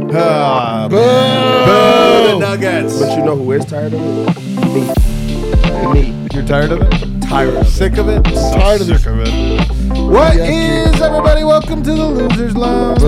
Boo! The Nuggets. But you know who is tired of it? Me. You're tired of it? Tired of it. Sick of it? Tired of this. Sick of it. What is, everybody? Welcome to the Losers Lounge.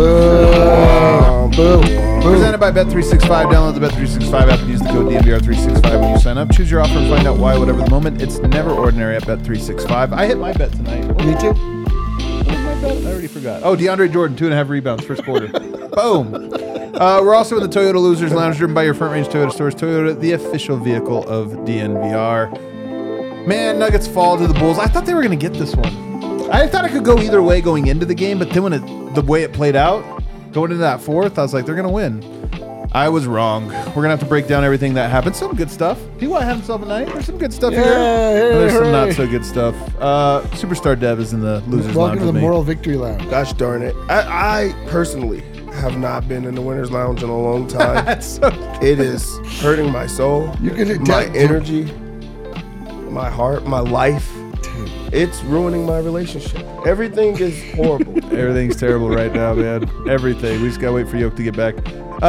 Presented by Bet365. Download the Bet365 app and use the code DNVR365 when you sign up. Choose your offer and find out why, whatever the moment. It's never ordinary at Bet365. I hit my bet tonight. Me too. What was my bet? I already forgot. Oh, DeAndre Jordan, 2.5 rebounds, first quarter. Boom. We're also in the Toyota Losers Lounge, driven by your Front Range Toyota stores. Toyota, the official vehicle of DNVR. Man, Nuggets fall to the Bulls. I thought they were going to get this one. I thought it could go either way going into the game, but then when the way it played out, going into that fourth, I was like, they're going to win. I was wrong. We're going to have to break down everything that happened. Some good stuff. P.Y. had himself a night. There's some good stuff here. There's some not so good stuff. Superstar Dev is in the Losers Lounge. Welcome to the with me. Moral Victory Lounge. Gosh darn it. I personally have not been in the Winners Lounge in a long time. That's so It is hurting my soul, You can my energy, my heart, my life. It's ruining my relationship. Everything is horrible. Everything's terrible right now, man. Everything. We just gotta wait for Yoke to get back.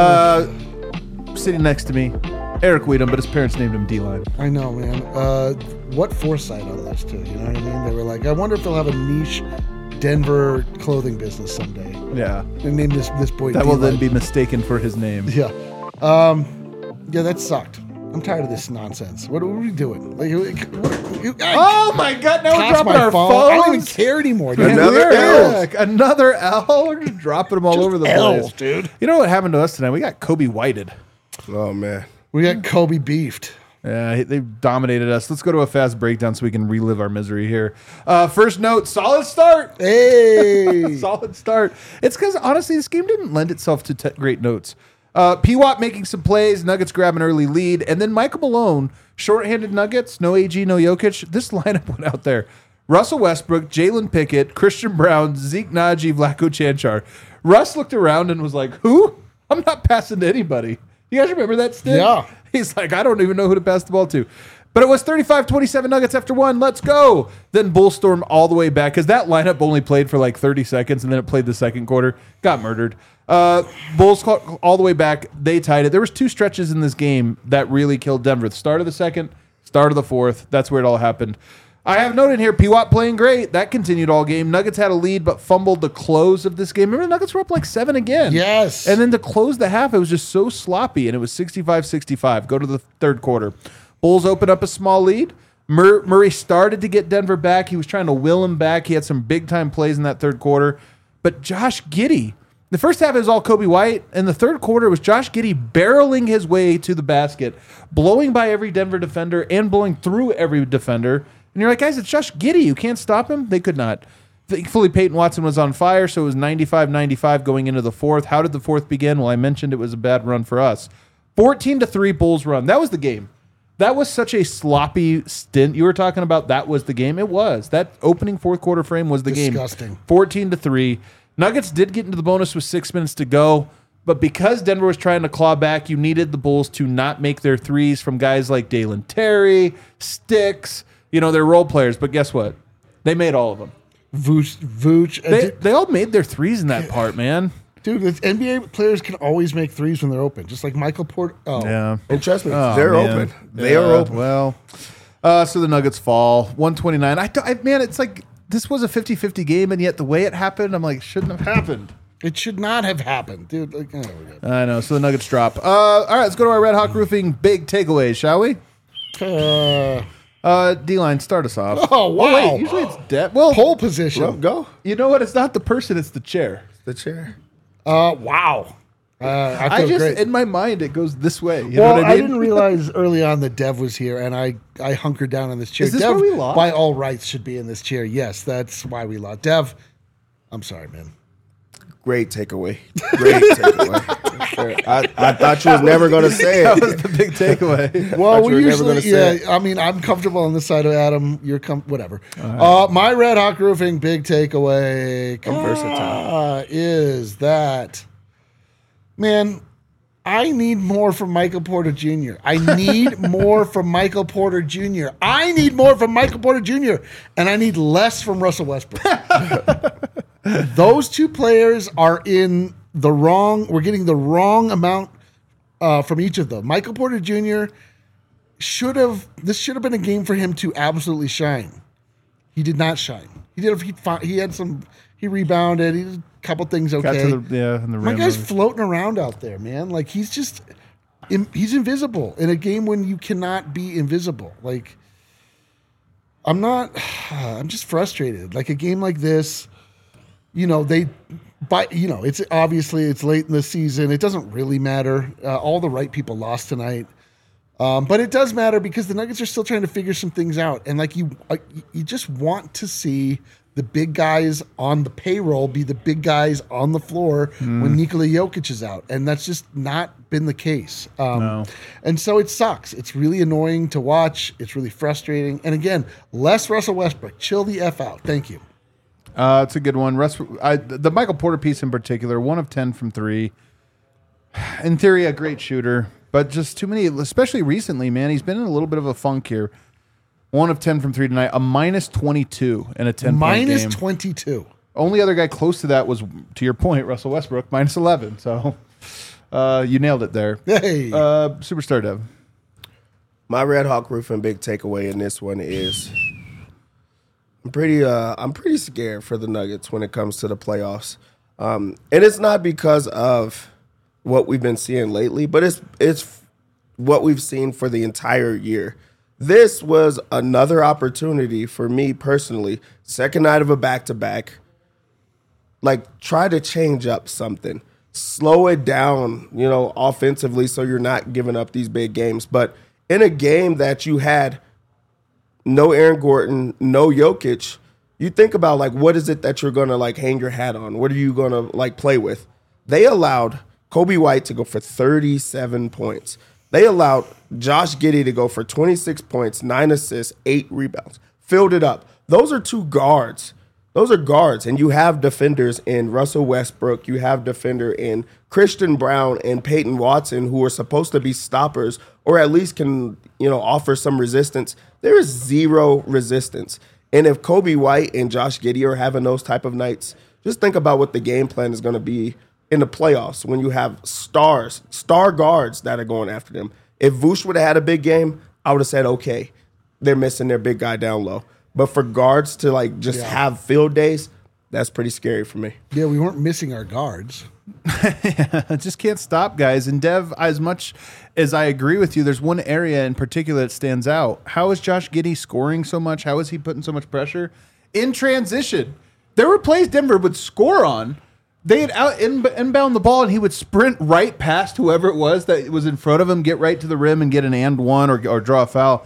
Sitting next to me, Eric Weedham, but his parents named him D-Line. I know, man. What foresight on this, too. You know what I mean? They were like, I wonder if they'll have a niche Denver clothing business someday. Yeah. And name this boy That will then D-Line. be mistaken for his name. Yeah. Yeah, that sucked. I'm tired of this nonsense. What are we doing? Oh my God! Now we're Pass dropping my our phone. phones. I don't even care anymore, dude. Another L. Another L. We're just dropping them all over the L's, place, dude. You know what happened to us tonight? We got Kobe Whited. Oh, man. We got Kobe beefed. Yeah, they dominated us. Let's go to a fast breakdown so we can relive our misery here. First note: solid start. Hey. Solid start. It's because, honestly, this game didn't lend itself to great notes. P-Watt making some plays, Nuggets grab an early lead, and then Michael Malone, shorthanded Nuggets, no AG, no Jokic. This lineup went out there. Russell Westbrook, Jalen Pickett, Christian Brown, Zeke Naji, Vlatko Cancar. Russ looked around and was like, who? I'm not passing to anybody. You guys remember that stick? Yeah. He's like, I don't even know who to pass the ball to. But it was 35-27 Nuggets after one. Let's go. Then Bullstorm all the way back because that lineup only played for like 30 seconds and then it played the second quarter. Got murdered. Bulls all the way back. They tied it. There was two stretches in this game that really killed Denver. The start of the second, start of the fourth. That's where it all happened. I have noted here, P-Watt playing great. That continued all game. Nuggets had a lead but fumbled the close of this game. Remember, the Nuggets were up like 7 again. Yes. And then to close the half, it was just so sloppy, and it was 65-65. Go to the third quarter. Bulls open up a small lead. Murray started to get Denver back. He was trying to will him back. He had some big-time plays in that third quarter. But Josh Giddey, the first half is all Kobe White, and the third quarter was Josh Giddey barreling his way to the basket, blowing by every Denver defender and blowing through every defender. And you're like, guys, it's Josh Giddey. You can't stop him? They could not. Thankfully, Peyton Watson was on fire, so it was 95-95 going into the fourth. How did the fourth begin? Well, I mentioned it was a bad run for us. 14-3 Bulls run. That was the game. That was such a sloppy stint. You were talking about that was the game. It was. That opening fourth quarter frame was the Disgusting. game. 14-3. Nuggets did get into the bonus with 6 minutes to go, but because Denver was trying to claw back, you needed the Bulls to not make their threes from guys like Dalen Terry, Sticks, they're role players. But guess what? They made all of them. Vooch. They all made their threes in that part, man. Dude, the NBA players can always make threes when they're open, just like Michael Porter. Oh, Yeah. And trust me, Oh, they're man. open. They are open. Well, so the Nuggets fall 129. Man, it's like this was a 50-50 game, and yet the way it happened, I'm like, shouldn't have happened. It should not have happened, dude. I know. So the Nuggets drop. All right, let's go to our Red Hawk Roofing big takeaways, shall we? D-Line, start us off. Oh, wow. Wait, usually it's dead. Well, Pole position. Well, go. you know what? It's not the person; it's the chair. The chair. Wow. I feel great. In my mind, it goes this way. You know Well, what I I mean? didn't realize early on that Dev was here, and I hunkered down in this chair. Is this Dev, where we lost? by all rights, should be in this chair. Yes, that's why we lost. Dev, I'm sorry, man. Great takeaway. Great takeaway. I thought you was never going to say That it. was the big takeaway. Well, Thought you we were never usually, gonna say it. I mean, I'm comfortable on this side of Adam. You're whatever. My Red Hawk Roofing big takeaway versatile. is that, man, I need more from Michael Porter Jr. I need more from Michael Porter Jr. I need more from Michael Porter Jr. And I need less from Russell Westbrook. Those two players are in the wrong. We're getting the wrong amount from each of them. Michael Porter Jr. This should have been a game for him to absolutely shine. He did not shine. He rebounded. He did a couple things okay. In the My rim. guy's floating around out there, man. Like he's invisible in a game when you cannot be invisible. Like I'm just frustrated. Like a game like this, it's obviously it's late in the season. It doesn't really matter. All the right people lost tonight. But it does matter because the Nuggets are still trying to figure some things out. And like you just want to see the big guys on the payroll be the big guys on the floor when Nikola Jokic is out. And that's just not been the case. No. And so it sucks. It's really annoying to watch. It's really frustrating. And again, less Russell Westbrook. Chill the F out. Thank you. It's a good one. The Michael Porter piece in particular, 1 of 10 from 3. In theory, a great shooter, but just too many, especially recently, man. He's been in a little bit of a funk here. 1 of 10 from 3 tonight, a -22 in a 10-point game. -22. Only other guy close to that was, to your point, Russell Westbrook, -11. So you nailed it there. Hey. Superstar Dev. My Red Hawk Roofing big takeaway in this one is I'm pretty scared for the Nuggets when it comes to the playoffs. And it's not because of what we've been seeing lately, but it's what we've seen for the entire year. This was another opportunity for me personally, second night of a back-to-back, like try to change up something. Slow it down, offensively so you're not giving up these big games. But in a game that you had no Aaron Gordon, no Jokic, you think about, like, what is it that you're going to, like, hang your hat on? What are you going to, like, play with? They allowed Kobe White to go for 37 points. They allowed Josh Giddey to go for 26 points, 9 assists, 8 rebounds. Filled it up. Those are two guards. Those are guards. And you have defenders in Russell Westbrook. You have defender in Christian Brown and Peyton Watson, who are supposed to be stoppers or at least can, offer some resistance. There is zero resistance. And if Kobe White and Josh Giddey are having those type of nights, just think about what the game plan is going to be in the playoffs when you have star guards that are going after them. If Vooch would have had a big game, I would have said, okay, they're missing their big guy down low. But for guards to have field days, that's pretty scary for me. Yeah, we weren't missing our guards. Just can't stop, guys. And Dev, as much as I agree with you, there's one area in particular that stands out. How is Josh Giddey scoring so much? How is he putting so much pressure? In transition. There were plays Denver would score on. They'd inbound the ball, and he would sprint right past whoever it was that was in front of him, get right to the rim and get an and one or draw a foul.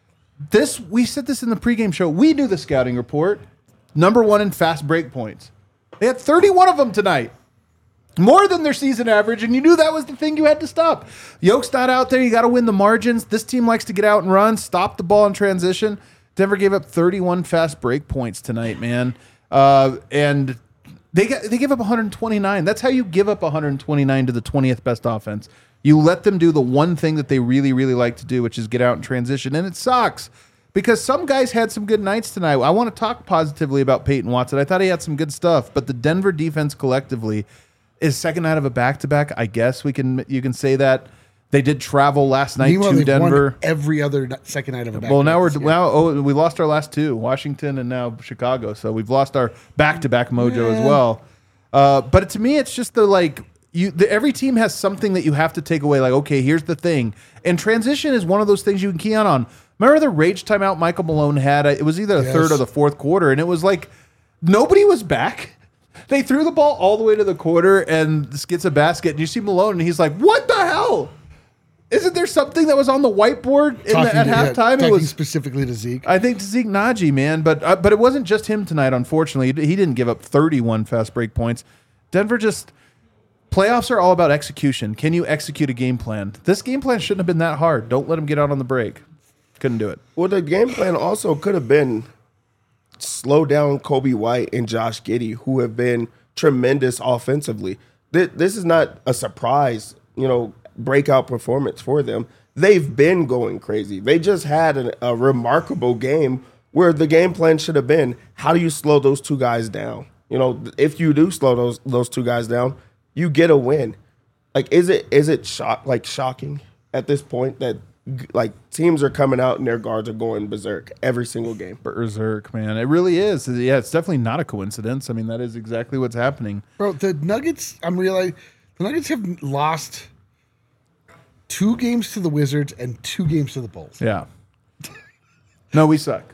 We said this in the pregame show. We knew the scouting report. Number 1 in fast break points. They had 31 of them tonight. More than their season average, and you knew that was the thing you had to stop. Yoke's not out there. You got to win the margins. This team likes to get out and run, stop the ball in transition. Denver gave up 31 fast break points tonight, man. And they give up 129. That's how you give up 129 to the 20th best offense. You let them do the one thing that they really, really like to do, which is get out and transition. And it sucks because some guys had some good nights tonight. I want to talk positively about Peyton Watson. I thought he had some good stuff, but the Denver defense collectively is second night of a back-to-back. I guess you can say that. They did travel last night to Denver. Every other second night of a back-to-back. Well, we lost our last two, Washington and now Chicago. So we've lost our back-to-back mojo as well. But to me, it's just every team has something that you have to take away. Like, okay, here's the thing. And transition is one of those things you can key on. Remember the rage timeout Michael Malone had? It was either the third or the fourth quarter, and it was like nobody was back. They threw the ball all the way to the quarter, and this gets a basket, and you see Malone, and he's like, what the hell? Isn't there something that was on the whiteboard at halftime? Talking specifically to Zeke. I think to Zeke Naji, man. But it wasn't just him tonight, unfortunately. He didn't give up 31 fast break points. Denver playoffs are all about execution. Can you execute a game plan? This game plan shouldn't have been that hard. Don't let him get out on the break. Couldn't do it. Well, the game plan also could have been slow down Kobe White and Josh Giddey, who have been tremendous offensively. This is not a surprise, breakout performance for them. They've been going crazy. They just had a remarkable game where the game plan should have been, how do you slow those two guys down? You know, if you do slow those two guys down, you get a win. Like, is it shocking at this point that like teams are coming out and their guards are going berserk every single game? Berserk, man. It really is. Yeah, it's definitely not a coincidence. I mean, that is exactly what's happening. Bro, the Nuggets, I'm realizing the Nuggets have lost 2 games to the Wizards and 2 games to the Bulls. Yeah. No, we suck.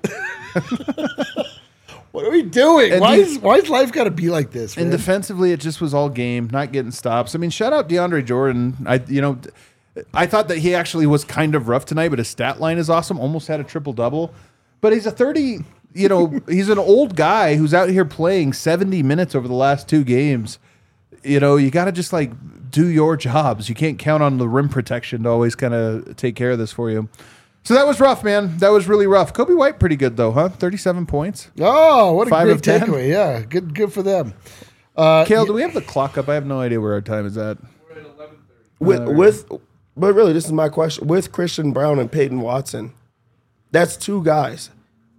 What are we doing? And Why is life got to be like this, man? And defensively, it just was all game, not getting stops. I mean, shout out DeAndre Jordan. I thought that he actually was kind of rough tonight, but his stat line is awesome. Almost had a triple-double. But he's a 30, he's an old guy who's out here playing 70 minutes over the last 2 games. You got to just like do your jobs. You can't count on the rim protection to always kind of take care of this for you. So that was rough, man. That was really rough. Kobe White pretty good though, huh? 37 points. Oh, what a 5 great of 10. takeaway. Yeah, good for them. Kale, do we have the clock up? I have no idea where our time is at. We're at 11:30. But really, this is my question. With Christian Brown and Peyton Watson, that's 2 guys.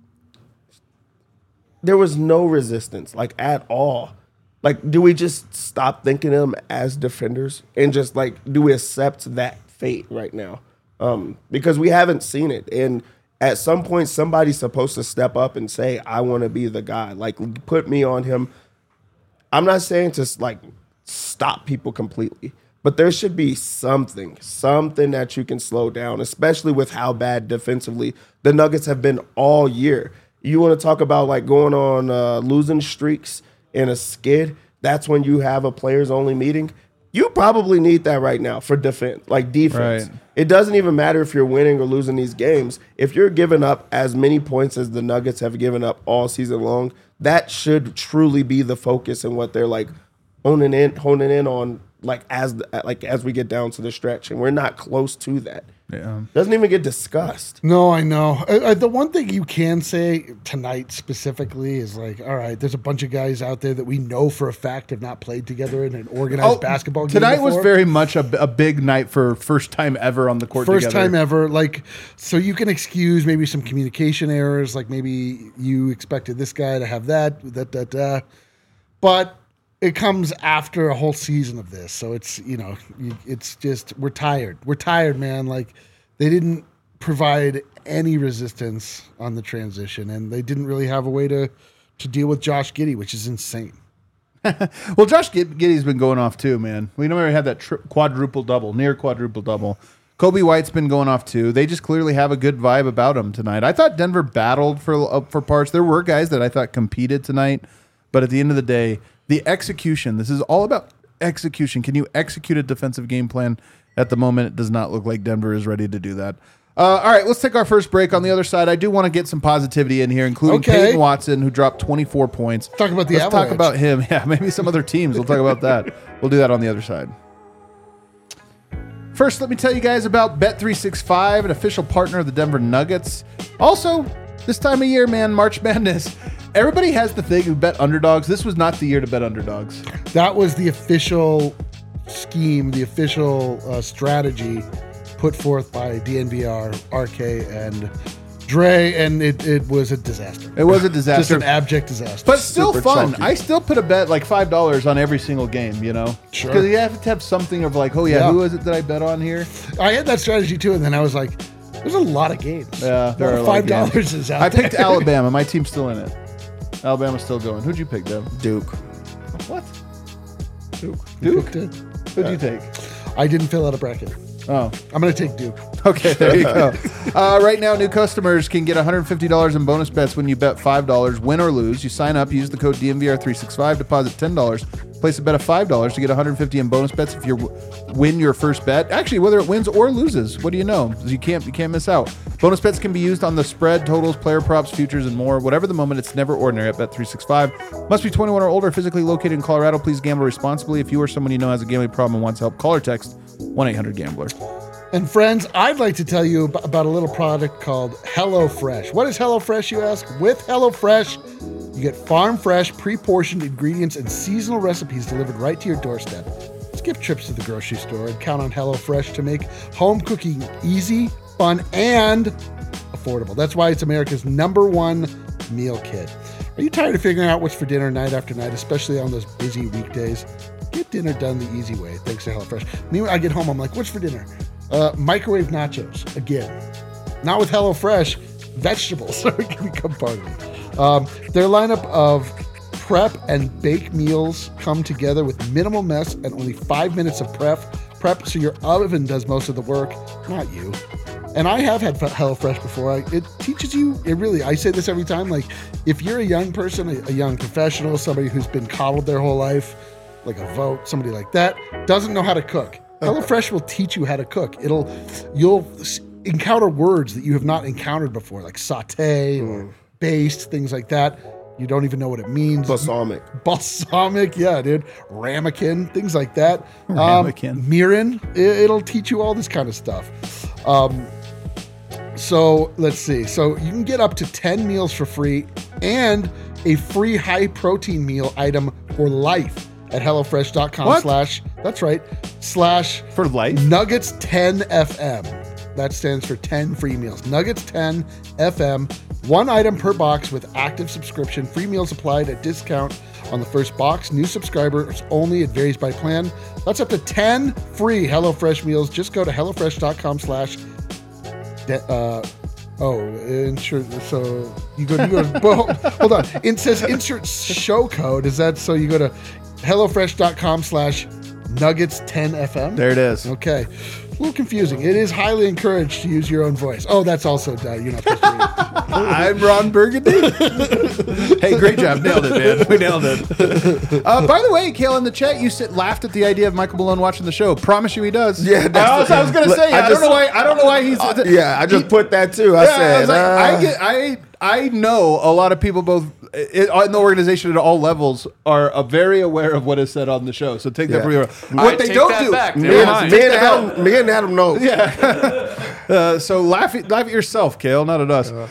There was no resistance, like, at all. Like, do we just stop thinking of them as defenders and just, like, do we accept that fate right now? Because we haven't seen it. And at some point, somebody's supposed to step up and say, I want to be the guy. Like, put me on him. I'm not saying to, like, stop people completely. But there should be something that you can slow down, especially with how bad defensively the Nuggets have been all year. You want to talk about like going on losing streaks in a skid? That's when you have a players-only meeting. You probably need that right now for defense. Right. It doesn't even matter if you're winning or losing these games. If you're giving up as many points as the Nuggets have given up all season long, that should truly be the focus and what they're like honing in on. Like as we get down to the stretch, and we're not close to that. Yeah, doesn't even get discussed. No, I know. The one thing you can say tonight specifically is like, all right, there's a bunch of guys out there that we know for a fact have not played together in an organized basketball game tonight before. was very much a big night for first time ever on the court. First together. time ever. Like, so you can excuse maybe some communication errors. Like maybe you expected this guy to have that. But it comes after a whole season of this. So it's, it's just, we're tired. We're tired, man. Like they didn't provide any resistance on the transition and they didn't really have a way to deal with Josh Giddey, which is insane. Well, Josh Giddey's been going off too, man. We never had that near quadruple double. Kobe White's been going off too. They just clearly have a good vibe about him tonight. I thought Denver battled for parts. There were guys that I thought competed tonight, but at the end of the day, the execution. This is all about execution. Can you execute a defensive game plan? At the moment, it does not look like Denver is ready to do that. All right, let's take our first break. On the other side, I do want to get some positivity in here, including Peyton Watson, who dropped 24 points. Talk about the Let's Avalanche. talk about him. Yeah, maybe some other teams. We'll talk about that. We'll do that on the other side. First, let me tell you guys about Bet365, an official partner of the Denver Nuggets. Also, this time of year, man, March Madness. Everybody has the thing who bet underdogs. This was not the year to bet underdogs. That was the official scheme, the official strategy put forth by DNVR, RK, and Dre, and it was a disaster. It was a disaster. Just an abject disaster. But still Super fun. chalky. I still put a bet like $5 on every single game, Sure. Because you have to have something of like, oh yeah, who is it that I bet on here? I had that strategy too, and then I was like, there's a lot of games. Yeah, there are a lot of $5 games. is out I there. picked Alabama. My team's still in it. Alabama's still going. Who'd you pick, Dev? Duke. What? You Duke? picked it. Who'd you take? I didn't fill out a bracket. Oh, I'm going to take Duke. okay. There you go. Right now, new customers can get $150 in bonus bets when you bet $5, win or lose. You sign up, use the code DMVR365, deposit $10, place a bet of $5 to get $150 in bonus bets if you win your first bet. Actually, whether it wins or loses, what do you know? You can't miss out. Bonus bets can be used on the spread, totals, player props, futures, and more. Whatever the moment, it's never ordinary at Bet365. Must be 21 or older, physically located in Colorado. Please gamble responsibly. If you or someone you know has a gambling problem and wants help, call or text 1-800-GAMBLER. And friends, I'd like to tell you about a little product called HelloFresh. What is HelloFresh, you ask? With HelloFresh, you get farm fresh, pre-portioned ingredients and seasonal recipes delivered right to your doorstep. Skip trips to the grocery store and count on HelloFresh to make home cooking easy, fun, and affordable. That's why it's America's #1 meal kit. Are you tired of figuring out what's for dinner night after night, especially on those busy weekdays? Get dinner done the easy way, thanks to HelloFresh. Meanwhile, I get home, I'm like, what's for dinner? Microwave nachos, again. Not with HelloFresh, vegetables are going to become part of it. Their lineup of prep and bake meals come together with minimal mess and only 5 minutes of prep, so your oven does most of the work, not you. And I have had HelloFresh before. It teaches you, I say this every time, like if you're a young person, a young professional, somebody who's been coddled their whole life, like a vote, somebody like that, doesn't know how to cook. HelloFresh will teach you how to cook. You'll encounter words that you have not encountered before, like saute or baste, things like that. You don't even know what it means. Balsamic, yeah, dude. Ramekin, things like that. Ramekin. Mirin, it'll teach you all this kind of stuff. So let's see. So you can get up to 10 meals for free and a free high protein meal item for life at HelloFresh.com/ that's right, / For life? Nuggets 10 FM. That stands for 10 free meals. Nuggets 10 FM. 1 item per box with active subscription. Free meals applied at discount on the first box. New subscribers only. It varies by plan. That's up to 10 free HelloFresh meals. Just go to HelloFresh.com/ insert. So you go well, hold on. It says insert show code. Is that so? You go to HelloFresh.com/ Nuggets 10 FM. There it is. Okay. A little confusing. It is highly encouraged to use your own voice. Oh, that's also you're not supposed to read it. I'm Ron Burgundy. Hey, great job. Nailed it, man. We nailed it. By the way, Kale, in the chat, you laughed at the idea of Michael Malone watching the show. Promise you he does. Yeah, I was going to say, I don't know why he's... I just put that too. I said... I know a lot of people both in the organization at all levels are very aware of what is said on the show. So take that for your... What they don't do... Me and Adam know. Yeah. So laugh at yourself, Kale, not at us.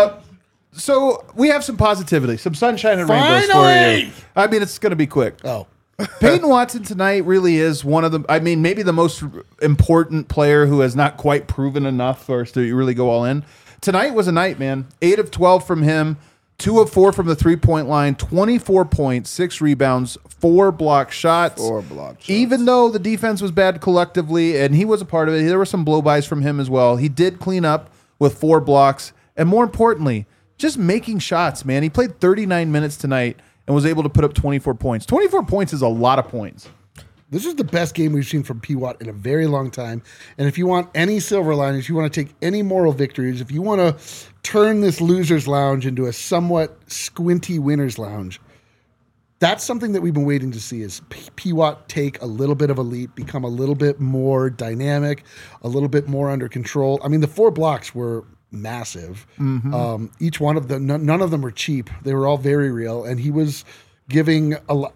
So we have some positivity, some sunshine and rainbows for you. I mean, it's going to be quick. Oh. Peyton Watson tonight really is one of the, maybe the most important player who has not quite proven enough for us to really go all in. Tonight was a night, man. 8 of 12 from him, 2 of 4 from the 3-point line, 24 points, 6 rebounds, 4 block shots. 4 block shots. Even though the defense was bad collectively, and he was a part of it, there were some blow-bys from him as well. He did clean up with 4 blocks, and more importantly, just making shots, man. He played 39 minutes tonight and was able to put up 24 points. 24 points is a lot of points. This is the best game we've seen from P-Watt in a very long time. And if you want any silver linings, you want to take any moral victories, if you want to turn this loser's lounge into a somewhat squinty winner's lounge, that's something that we've been waiting to see is P-Watt take a little bit of a leap, become a little bit more dynamic, a little bit more under control. I mean, the 4 blocks were massive. Mm-hmm. Each one of them, none of them were cheap. They were all very real. And he was giving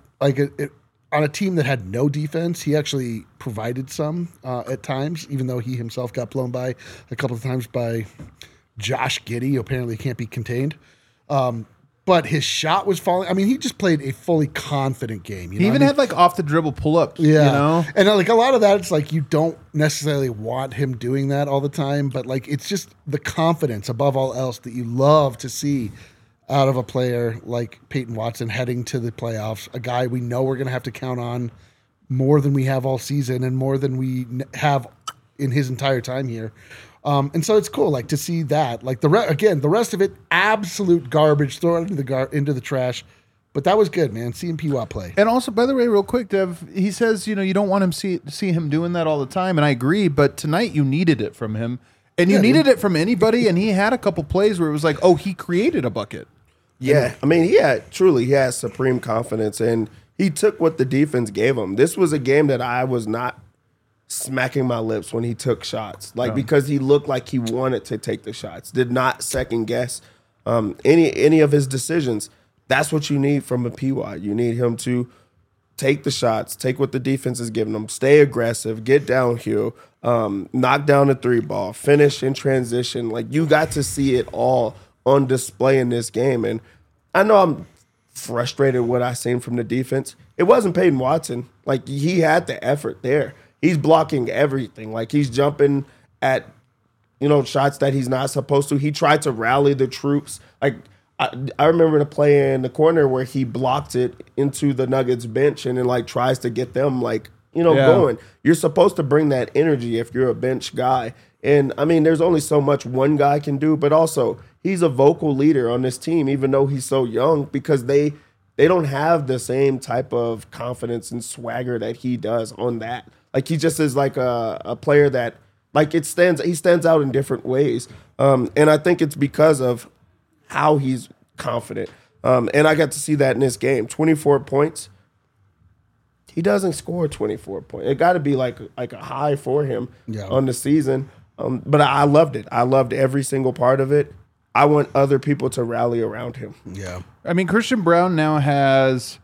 on a team that had no defense, he actually provided some at times, even though he himself got blown by a couple of times by Josh Giddey, who apparently can't be contained. But his shot was falling. I mean, he just played a fully confident game. He even had off the dribble pull-ups. Yeah. You know? And a lot of that, it's like you don't necessarily want him doing that all the time, but it's just the confidence above all else that you love to see out of a player like Peyton Watson heading to the playoffs, a guy we know we're going to have to count on more than we have all season and more than we have in his entire time here. And so it's cool, to see that. The rest of it, absolute garbage, throw it into the trash. But that was good, man. Seeing P-Watt play. And also, by the way, real quick, Dev, he says, you don't want him see him doing that all the time, and I agree. But tonight, you needed it from him, and you needed it from anybody. And he had a couple plays where it was he created a bucket. Yeah, I mean, he has supreme confidence, and he took what the defense gave him. This was a game that I was not smacking my lips when he took shots, because he looked like he wanted to take the shots, did not second guess any of his decisions. That's what you need from a P-Watt. You need him to take the shots, take what the defense is giving him, stay aggressive, get downhill, knock down the 3-ball, finish in transition. You got to see it all on display in this game. And I know I'm frustrated with what I seen from the defense. It wasn't Peyton Watson. He had the effort there. He's blocking everything. He's jumping at, shots that he's not supposed to. He tried to rally the troops. I remember the play in the corner where he blocked it into the Nuggets bench and then like tries to get them like, going. You're supposed to bring that energy if you're a bench guy. And I mean, there's only so much one guy can do, but also he's a vocal leader on this team, even though he's so young, because they don't have the same type of confidence and swagger that he does on that. Like he just is like a player that like he stands out in different ways. And I think it's because of how he's confident. And I got to see that in this game. 24 points. He doesn't score 24 points. It got to be like a high for him on the season. But I loved it. I loved every single part of it. I want other people to rally around him. Yeah. I mean, Christian Braun now has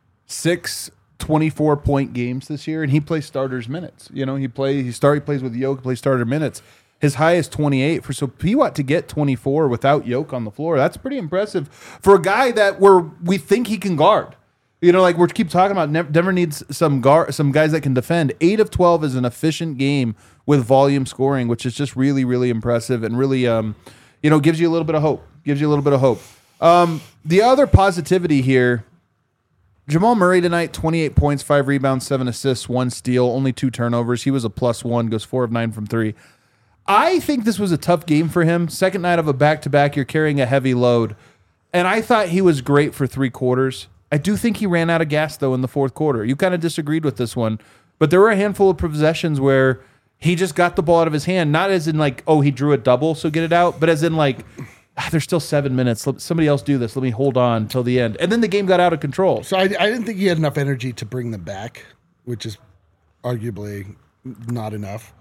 6 24-point games this year, and he plays starters minutes. He plays with Yoke, plays starter minutes. His high is 28. So Piwat to get 24 without Yoke on the floor, that's pretty impressive for a guy that we think he can guard. Like we keep talking about, Denver needs some guys that can defend. 8 of 12 is an efficient game with volume scoring, which is just really, really impressive and really, gives you a little bit of hope. The other positivity here, Jamal Murray tonight, 28 points, 5 rebounds, 7 assists, 1 steal, only 2 turnovers. He was a +1, goes 4 of 9 from 3. I think this was a tough game for him. Second night of a back-to-back, you're carrying a heavy load. And I thought he was great for 3 quarters. I do think he ran out of gas, though, in the fourth quarter. You kind of disagreed with this one. But there were a handful of possessions where he just got the ball out of his hand, not as in like, oh, he drew a double, so get it out, but as in like, there's still 7 minutes. Let somebody else do this. Let me hold on till the end. And then the game got out of control. So I didn't think he had enough energy to bring them back, which is arguably not enough.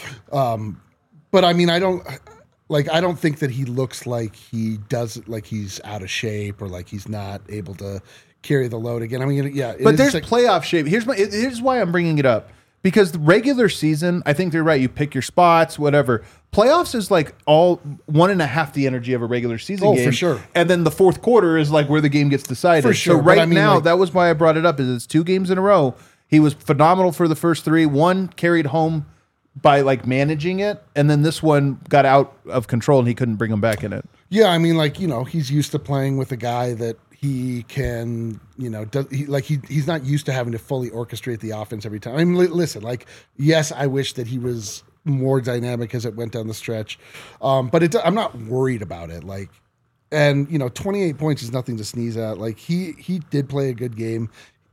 But I mean, I don't think that he looks like he does, like he's out of shape or like he's not able to carry the load again. I mean, yeah. But there's playoff shape. Here's why I'm bringing it up. Because the regular season, I think they're right. You pick your spots, whatever. Playoffs is like all 1.5 the energy of a regular season game. Oh, for sure. And then the fourth quarter is like where the game gets decided. For sure. So right now, that was why I brought it up. Is it's 2 games in a row. He was phenomenal for the first 3. One carried home by like managing it, and then this one got out of control and he couldn't bring him back in it. Yeah, I mean, like, he's used to playing with a guy that he can, he's not used to having to fully orchestrate the offense every time. I mean, listen, like, yes, I wish that he was more dynamic as it went down the stretch, but I'm not worried about it. Like, and 28 points is nothing to sneeze at. Like, he did play a good game.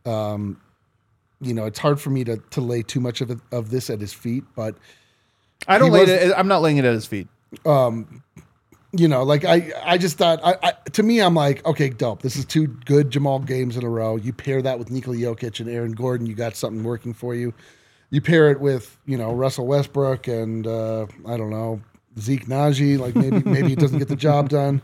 It's hard for me to lay too much of this at his feet, but I'm not laying it at his feet. I just thought, to me, I'm like, okay, dope. This is 2 good Jamal games in a row. You pair that with Nikola Jokic and Aaron Gordon, you got something working for you. You pair it with, Russell Westbrook and, I don't know, Zeke Naji, like maybe he doesn't get the job done.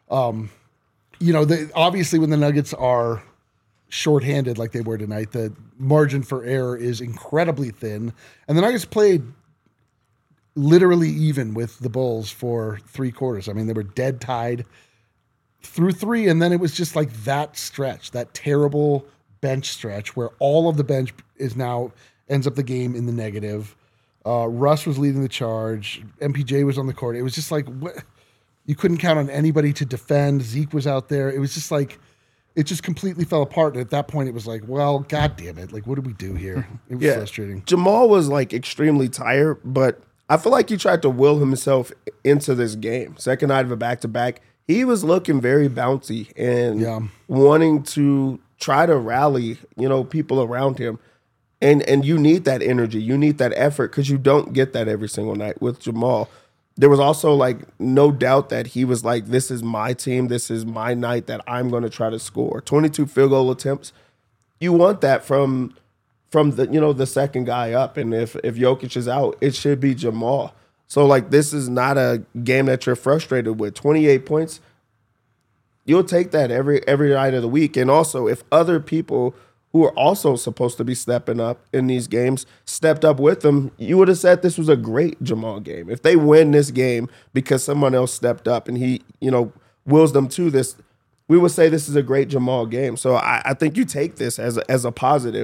Obviously when the Nuggets are shorthanded like they were tonight, the margin for error is incredibly thin. And the Nuggets played literally even with the Bulls for 3 quarters. I mean, they were dead tied through 3, and then it was just like that stretch, that terrible bench stretch where all of the bench ends up the game in the negative. Russ was leading the charge. MPJ was on the court. It was just like, you couldn't count on anybody to defend. Zeke was out there. It was just like, it just completely fell apart. And at that point, it was like, well, God damn it. Like, what did we do here? It was frustrating. Jamal was like extremely tired, but I feel like he tried to will himself into this game. Second night of a back-to-back, he was looking very bouncy and wanting to try to rally, people around him. And you need that energy. You need that effort because you don't get that every single night with Jamal. There was also like no doubt that he was like, this is my team. This is my night that I'm going to try to score. 22 field goal attempts. You want that from the second guy up. And if Jokic is out, it should be Jamal. So like, this is not a game that you're frustrated with. 28 points. You'll take that every night of the week. And also if other people who are also supposed to be stepping up in these games stepped up with them, you would have said this was a great Jamal game. If they win this game because someone else stepped up and he, wills them to this, we would say this is a great Jamal game. So I think you take this as a positive.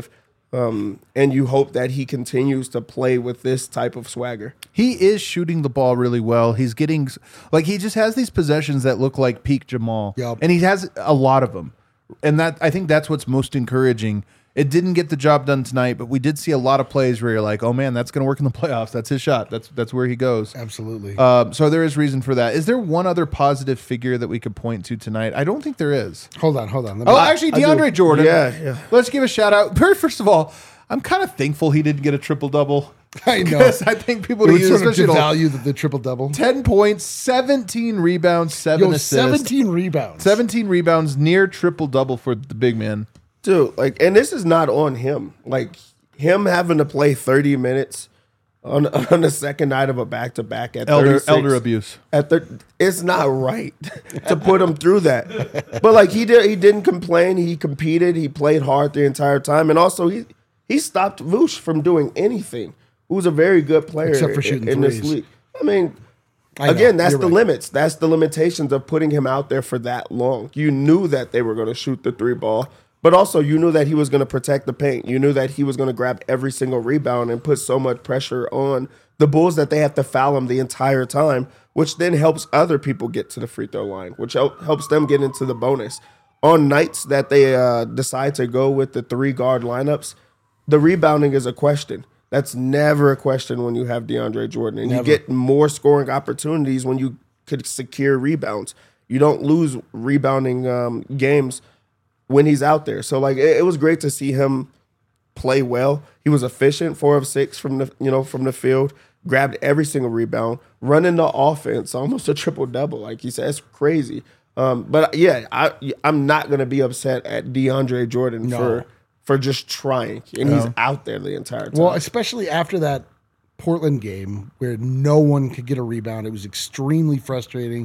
And you hope that he continues to play with this type of swagger. He is shooting the ball really well. He's getting like he just has these possessions that look like peak Jamal, Yep. and he has a lot of them. And that I think that's what's most encouraging. It didn't get the job done tonight, but we did see a lot of plays where you're like, "Oh man, that's going to work in the playoffs. That's his shot. That's where he goes." Absolutely. So there is reason for that. Is there one other positive figure that we could point to tonight? I don't think there is. Hold on. Let me, Oh, actually, I do. DeAndre Jordan. Yeah. Let's give a shout out. First of all, I'm kind of thankful he didn't get a triple double. I know. Because I think people it would use sort of especially devalue the triple double. 10 points, 17 rebounds, 7 assists. 17 rebounds. 17 rebounds, near triple double for the big man. Dude, like, and this is not on him. Like, him having to play 30 minutes on the second night of a back-to-back at 36. Elder abuse. It's not right to put him through that. But, like, he didn't complain. He competed. He played hard the entire time. And also, he stopped Vooch from doing anything. Who's a very good player Except for shooting in this threes. league. I mean, I know, again, that's you're the right. limits. That's the limitations of putting him out there for that long. You knew that they were going to shoot the three ball, but also you knew that he was going to protect the paint. You knew that he was going to grab every single rebound and put so much pressure on the Bulls that they have to foul him the entire time, which then helps other people get to the free throw line, which helps them get into the bonus. On nights that they decide to go with the 3-guard lineups, the rebounding is a question. That's never a question when you have DeAndre Jordan. And you get more scoring opportunities when you could secure rebounds. You don't lose rebounding games when he's out there. So, like, it was great to see him play well. He was efficient, 4 of 6 from the field, grabbed every single rebound, running the offense, almost a triple-double. Like he said, it's crazy. But, yeah, I'm not going to be upset at DeAndre Jordan for just trying, and he's out there the entire time. Well, especially after that Portland game where no one could get a rebound. It was extremely frustrating.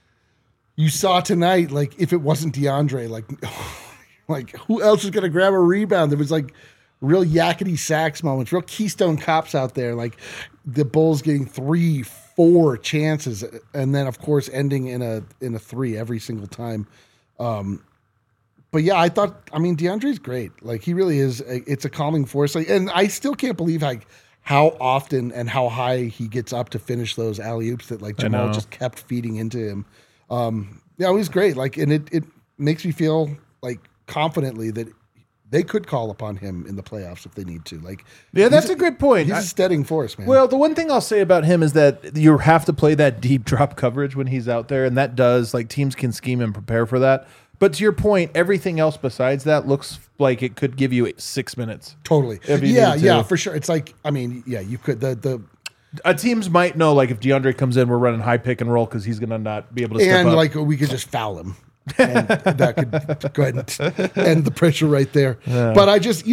You saw tonight, like, if it wasn't DeAndre, like who else is going to grab a rebound? There was, like, real yakety sax moments, real Keystone Cops out there, like the Bulls getting 3-4 chances, and then, of course, ending in a 3 every single time. But yeah, I mean, DeAndre's great. Like, he really is. It's a calming force. Like, and I still can't believe how often and how high he gets up to finish those alley-oops that, like, Jamal just kept feeding into him. Yeah, it was great. Like, and it makes me feel like confidently that they could call upon him in the playoffs if they need to. Like, Yeah, that's a good point. He's a steadying force, man. Well, the one thing I'll say about him is that you have to play that deep drop coverage when he's out there, and that does, like, teams can scheme and prepare for that. But to your point, everything else besides that looks like it could give you 6 minutes. Totally. If you Yeah, need to. yeah, for sure. It's like, I mean, yeah, you could Teams might know, like, if DeAndre comes in, we're running high pick and roll because he's going to not be able to step and up. like we could just foul him. And that could go ahead and end the pressure right there. But I just,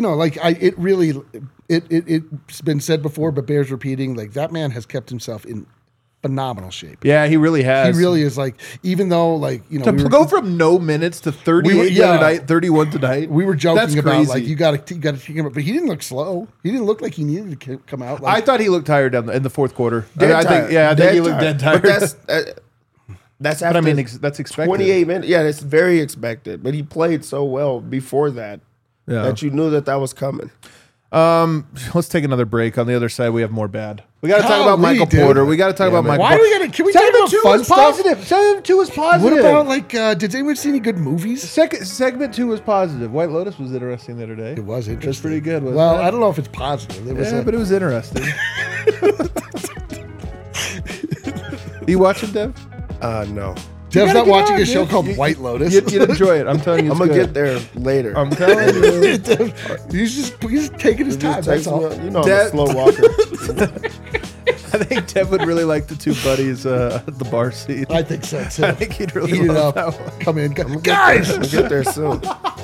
it's been said before, but bears repeating, like, that man has kept himself in phenomenal shape. Yeah, he really has. He really is, like, even though, like, To go from no minutes to 38 the other night, 31 tonight. We were joking That's about, crazy. like, you got to take him up, but he didn't look slow. He didn't look like he needed to come out. I Like, thought he looked tired in the fourth quarter. Dead I think tired. he looked dead tired. But that's after But I mean, that's expected. 28 minutes. Yeah, it's very expected. But he played so well before that that you knew that was coming. Let's take another break. On the other side, we have more bad. We got to talk about Golly, Michael dude. Porter. We got to talk about Michael why do Porter. we got to? Can we talk about 2 fun was stuff? positive. Segment 2 was positive. What about, like, did anyone see any good movies? Segment 2 was positive. White Lotus was interesting the other day. It was interesting. That's pretty good. Wasn't Well, it? I don't know if it's positive. It was Yeah, but it was interesting. You watching, Dev? No. Dev's gotta not get watching on, a show dude. called White Lotus. You'd enjoy it. I'm telling you. I'm It's going to good. get there later. I'm telling you. he's just taking his time. That's all. You know, I'm Dad- a slow walker. I think Dev would really like the 2 buddies at the bar seat. I think so too. I think he'd really Eat it love up. that one. Come in, guys. I'll get there soon.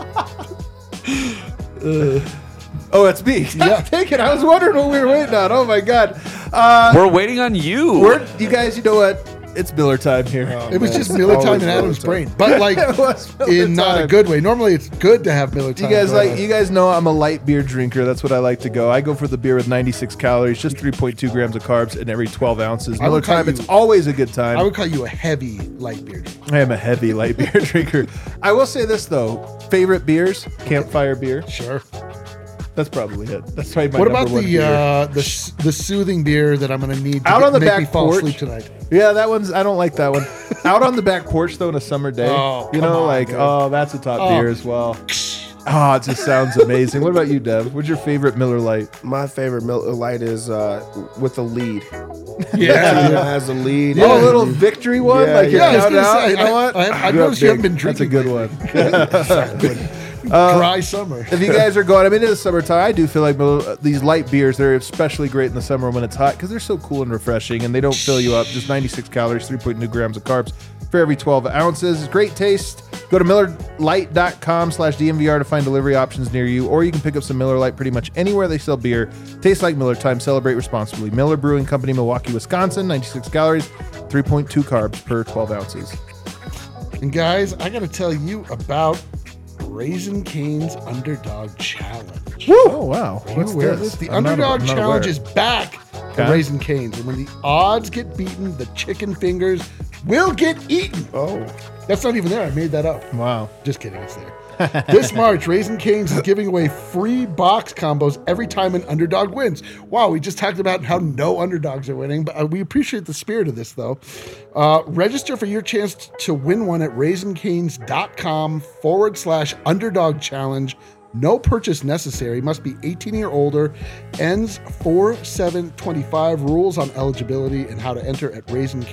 Oh, that's me. Yeah. Take it. I was wondering what we were waiting on. Oh my god. We're waiting on you. You guys, you know what? It's Miller time here. It was man, just it's Miller time always in Miller Adam's time. brain, but like It was Miller in not a time. good way. Normally, it's good to have Miller time. You guys know I'm a light beer drinker. That's what I like to go. I go for the beer with 96 calories, just 3.2 grams of carbs in every 12 ounces. I Miller would call time, you- it's always a good time. I would call you a heavy light beer drinker. I am a heavy light beer drinker. I will say this though: favorite beers, campfire beer. Sure. That's probably it. That's probably my What number about one beer. the soothing beer that I'm going to need to Out on the make back me fall porch? asleep tonight? Yeah, that one's. I don't like that one. Out on the back porch though, on a summer day. Oh, you come know, on, like dude. that's a top beer as well. Oh, it just sounds amazing. What about you, Dev? What's your favorite Miller Lite? My favorite Miller Lite is with a lead. Yeah. It has a lead. Oh, a little victory one, Yeah, like you're yeah. I was counting gonna out. say, You know what? I You're up noticed you haven't big. been drinking. That's a good one. Dry summer. If you guys are going, I mean, in the summertime, I do feel like these light beers, they're especially great in the summer when it's hot because they're so cool and refreshing and they don't fill you up. Just 96 calories, 3.2 grams of carbs for every 12 ounces. Great taste. Go to MillerLite.com/DNVR to find delivery options near you, or you can pick up some Miller Lite pretty much anywhere they sell beer. Tastes like Miller time. Celebrate responsibly. Miller Brewing Company, Milwaukee, Wisconsin. 96 calories, 3.2 carbs per 12 ounces. And guys, I got to tell you about Raising Cane's Underdog Challenge. Woo! Oh, wow. Are you What's aware of this? this? The I'm not- Underdog I'm not Challenge aware. is back Okay. for Raising Cane's. And when the odds get beaten, the chicken fingers will get eaten. Oh, That's not even there. I made that up. Wow. Just kidding, it's there. This March, Raising Cane's is giving away free box combos every time an underdog wins. Wow, we just talked about how no underdogs are winning, but we appreciate the spirit of this, though. Register for your chance to win one at raisingcanes.com/underdog challenge. No purchase necessary. Must be 18 or older. Ends 4/7/25. Rules on eligibility and how to enter at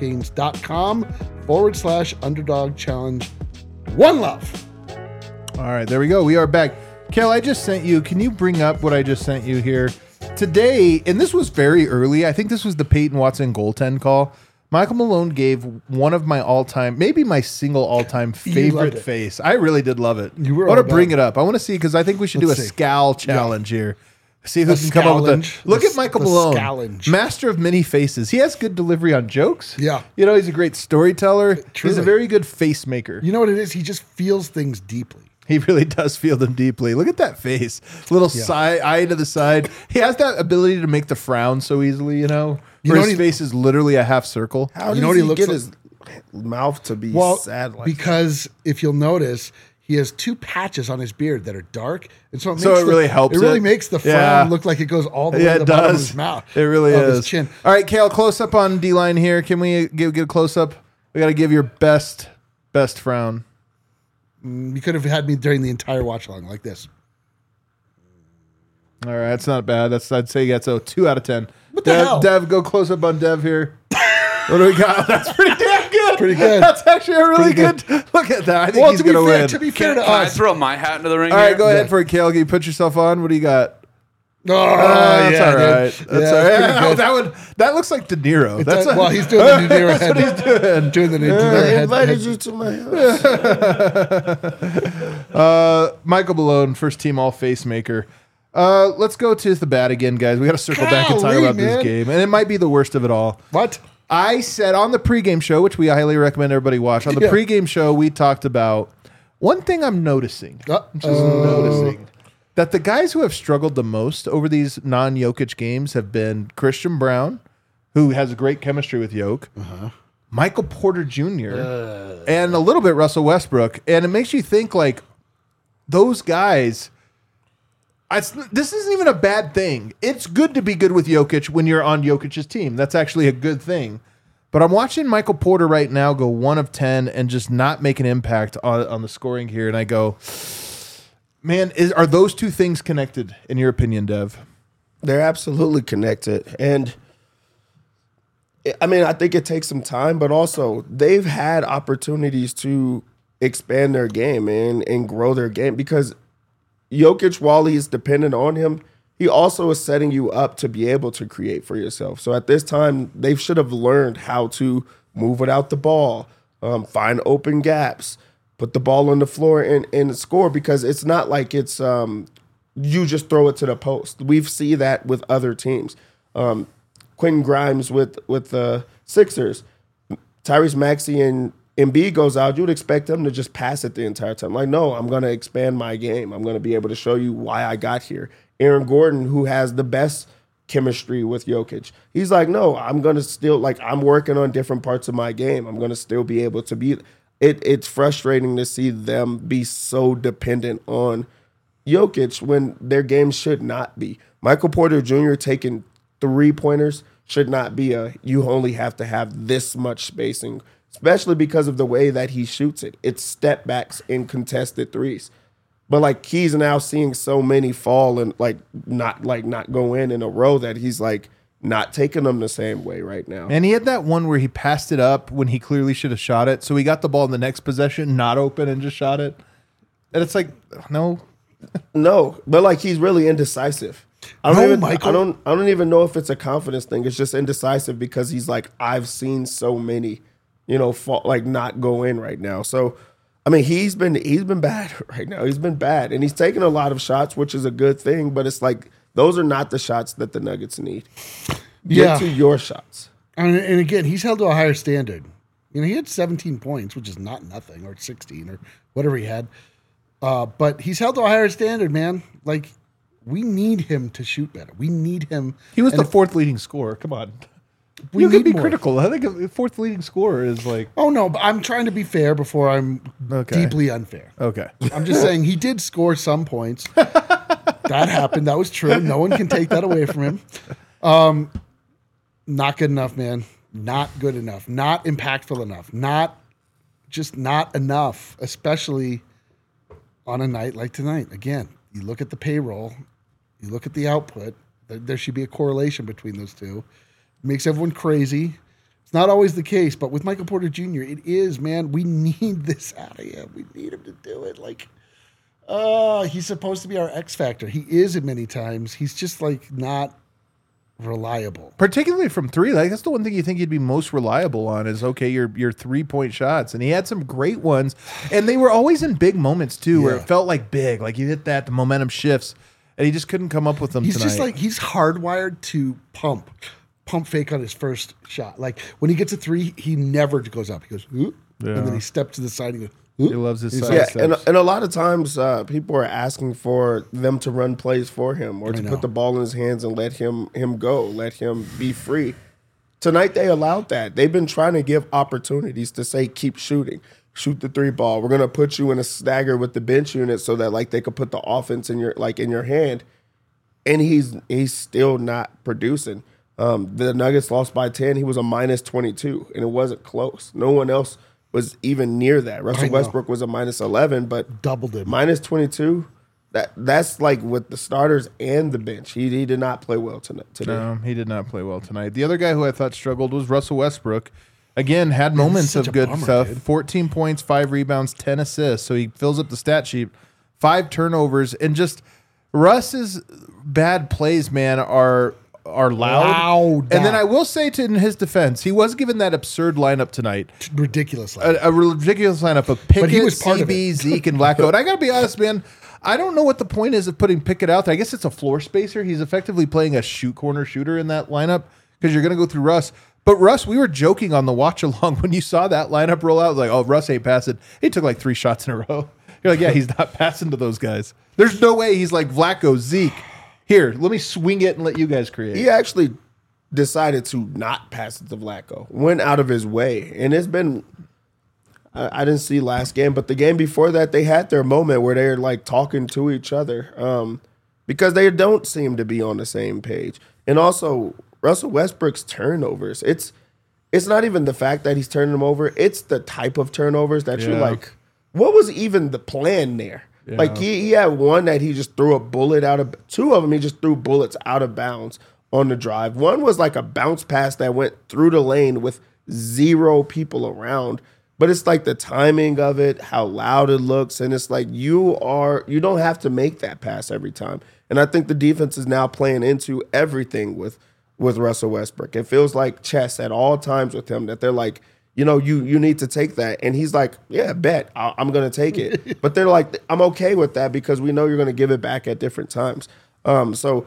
raisingcanes.com/underdog challenge. One love. All right, there we go. We are back. Kel, I just sent you. Can you bring up what I just sent you here? Today, and this was very early. I think this was the Peyton Watson goaltend call. Michael Malone gave one of my all-time, maybe my single all-time loved favorite it. face. I really did love it. You were I want all to bring about it up. I want to see because I think we should do a Let's see. scowl challenge here. See who A can come up with scallenge. it. Look The- at Michael the Malone, scallenge. master of many faces. He has good delivery on jokes. Yeah. You know, he's a great storyteller. He's Truly. a very good face maker. You know what it is? He just feels things deeply. He really does feel them deeply. Look at that face. Little side eye to the side. He has that ability to make the frown so easily, you know? You Where know his what he- face is literally a half circle. how You does know what he he looks get like? his mouth to be Well, sad like because if you'll notice, he has two patches on his beard that are dark, and so it makes So it really helps It really it? makes the frown Yeah. look like it goes all the way Yeah, to the it bottom of does. his mouth. It really of is. His chin. All right, Kale, close up on D-line here. Can we get a close up? We got to give your best frown. You could have had me during the entire watch along like this. All right, that's not bad. I'd say that's a 2 out of 10. What the hell? Dev, go close up on Dev here. What do we got? That's pretty damn good. Pretty good. That's actually a really Pretty good. Look at that. I think Well, he's to be going to fair, win. to be fair Can to I us, throw my hat into the ring All right, here? go ahead for it, Kale. Can you put yourself on? What do you got? oh, That's yeah, all dude. right. That's Yeah, all right. it's pretty good. That looks like De Niro. It That's does- well, he's doing the De Niro head. what he's doing. Doing the De I Niro head. invited head- you to my house. Michael Malone, first team all face maker. Let's go to the bat again, guys. We got to circle back and talk Golly, about this man. game, and it might be the worst of it all. What? I said on the pregame show, which we highly recommend everybody watch. On the Yeah. pregame show, we talked about one thing I'm noticing, that the guys who have struggled the most over these non-Jokic games have been Christian Brown, who has great chemistry with Jokic, Michael Porter Jr., and a little bit Russell Westbrook. And it makes you think, like, those guys... this isn't even a bad thing. It's good to be good with Jokic when you're on Jokic's team. That's actually a good thing. But I'm watching Michael Porter right now go 1 of 10 and just not make an impact on the scoring here. And I go, man, are those two things connected in your opinion, Dev? They're absolutely connected. And I mean, I think it takes some time, but also they've had opportunities to expand their game and grow their game because Jokic, while he's dependent on him, he also is setting you up to be able to create for yourself. So at this time, they should have learned how to move without the ball, find open gaps, put the ball on the floor and score because it's not like it's you just throw it to the post. We've seen that with other teams. Quentin Grimes with the Sixers, Tyrese Maxey and Embiid goes out, you would expect them to just pass it the entire time. Like, no, I'm going to expand my game. I'm going to be able to show you why I got here. Aaron Gordon, who has the best chemistry with Jokic, he's like, no, I'm going to still, like, I'm working on different parts of my game. I'm going to still be able to be. It's frustrating to see them be so dependent on Jokic when their game should not be. Michael Porter Jr. taking 3-pointers should not be you only have to have this much spacing, especially because of the way that he shoots it. It's step backs in contested threes. But like he's now seeing so many fall and not go in a row that he's like not taking them the same way right now. And he had that one where he passed it up when he clearly should have shot it. So he got the ball in the next possession, not open, and just shot it. And it's like, no. No, but like he's really indecisive. I don't even know if it's a confidence thing. It's just indecisive because he's like, I've seen so many, fall, like not go in right now. So, I mean, he's been bad right now. He's been bad, and he's taken a lot of shots, which is a good thing. But it's like those are not the shots that the Nuggets need. Get to your shots. And again, he's held to a higher standard. He had 17 points, which is not nothing, or 16, or whatever he had. But he's held to a higher standard, man. Like, we need him to shoot better. We need him. He was the fourth leading scorer. Come on. You can be critical. I think the fourth leading scorer is like... Oh, no, but I'm trying to be fair before I'm deeply unfair. Okay. I'm just saying he did score some points. That happened. That was true. No one can take that away from him. Not good enough, man. Not good enough. Not impactful enough. Not enough, especially on a night like tonight. Again, you look at the payroll, you look at the output, there should be a correlation between those two. It makes everyone crazy. It's not always the case, but with Michael Porter Jr., it is, man. We need this out of him. We need him to do it. Like, he's supposed to be our X factor. He is at many times. He's just like not reliable. Particularly from three. Like that's the one thing you think he'd be most reliable on is your 3-point shots. And he had some great ones. And they were always in big moments too, where it felt like big. Like you hit that, the momentum shifts. And he just couldn't come up with them tonight. He's just like he's hardwired to pump fake on his first shot. Like when he gets a three, he never goes up. He goes, and then he steps to the side and goes, he loves his side steps. And a lot of times people are asking for them to run plays for him or to put the ball in his hands and let him go, let him be free. Tonight they allowed that. They've been trying to give opportunities to say, keep shooting. Shoot the 3-ball. We're going to put you in a stagger with the bench unit so that like they could put the offense in your hand. And he's still not producing. The Nuggets lost by 10. He was a minus 22, and it wasn't close. No one else was even near that. Russell Westbrook was a minus 11, but doubled it. Minus 22. That's like with the starters and the bench. He did not play well today. No, he did not play well tonight. The other guy who I thought struggled was Russell Westbrook. Again, had moments of good stuff. Dude. 14 points, 5 rebounds, 10 assists. So he fills up the stat sheet. 5 turnovers, and just Russ's bad plays, man, are loud. And then I will say in his defense, he was given that absurd lineup tonight. Ridiculous lineup. A ridiculous lineup of Pickett, CB, Zeke, and Vlatko. And I got to be honest, man, I don't know what the point is of putting Pickett out there. I guess it's a floor spacer. He's effectively playing a corner shooter in that lineup because you're going to go through Russ. But Russ, we were joking on the watch along when you saw that lineup roll out. Like, oh, Russ ain't passing. He took like 3 shots in a row. You're like, yeah, he's not passing to those guys. There's no way he's like Vlatko, Zeke. Here, let me swing it and let you guys create. He actually decided to not pass it to Vlatko. Went out of his way. And it's been, I didn't see last game, but the game before that, they had their moment where they're like talking to each other because they don't seem to be on the same page. And also, Russell Westbrook's turnovers. It's not even the fact that he's turning them over. It's the type of turnovers that you're like, what was even the plan there? Yeah. Like he had one that he just threw a bullet out of. 2 of them he just threw bullets out of bounds on the drive. One was like a bounce pass that went through the lane with 0 people around. But it's like the timing of it, how loud it looks, and it's like you don't have to make that pass every time. And I think the defense is now playing into everything with Russell Westbrook. It feels like chess at all times with him that they're like, you need to take that. And he's like, yeah, bet. I'm going to take it. But they're like, I'm okay with that because we know you're going to give it back at different times. So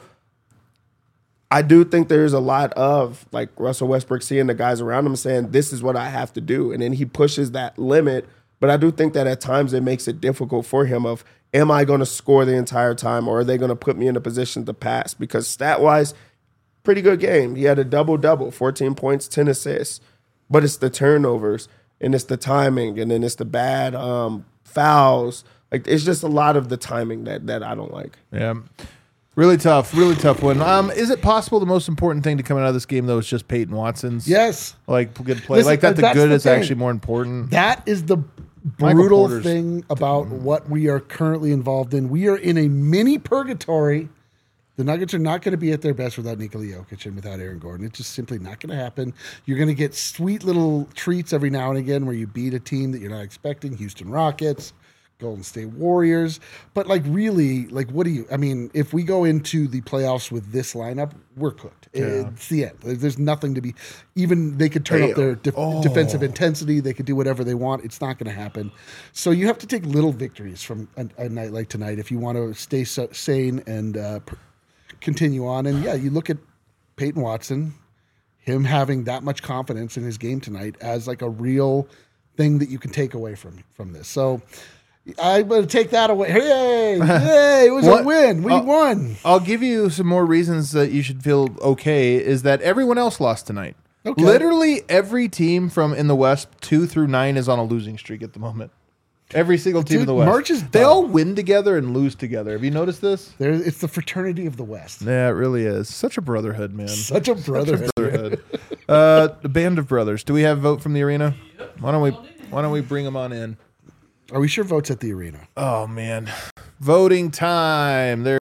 I do think there's a lot of like Russell Westbrook seeing the guys around him saying, this is what I have to do. And then he pushes that limit. But I do think that at times it makes it difficult for him of, am I going to score the entire time or are they going to put me in a position to pass? Because stat-wise, pretty good game. He had a double-double, 14 points, 10 assists. But it's the turnovers, and it's the timing, and then it's the bad fouls. Like it's just a lot of the timing that I don't like. Yeah. Really tough one. Is it possible the most important thing to come out of this game, though, is just Peyton Watson's Yes. good play? Listen, like that, the that's good the is thing. actually more important. That is the Michael brutal Porter's- thing about what we are currently involved in. We are in a mini purgatory. The Nuggets are not going to be at their best without Nikola Jokic and without Aaron Gordon. It's just simply not going to happen. You're going to get sweet little treats every now and again where you beat a team that you're not expecting, Houston Rockets, Golden State Warriors. But like really, like what do you, I mean, if we go into the playoffs with this lineup, we're cooked. It's the end. There's nothing to be, even they could turn up their defensive intensity. They could do whatever they want. It's not going to happen. So you have to take little victories from a night like tonight if you want to stay sane and continue on. And yeah, you look at Peyton Watson, him having that much confidence in his game tonight as like a real thing that you can take away from this. So I'm going to take that away. Hey, it was a win. We won. I'll give you some more reasons that you should feel okay. Is that everyone else lost tonight? Okay. Literally every team from in the West 2 through 9 is on a losing streak at the moment. Every single team in the West. March is they done. all win together and lose together. Have you noticed this? It's the fraternity of the West. Yeah, it really is. Such a brotherhood, man. Such a brotherhood. The band of brothers. Do we have a vote from the arena? Why don't we bring them on in? Are we sure votes at the arena? Oh man, voting time. There.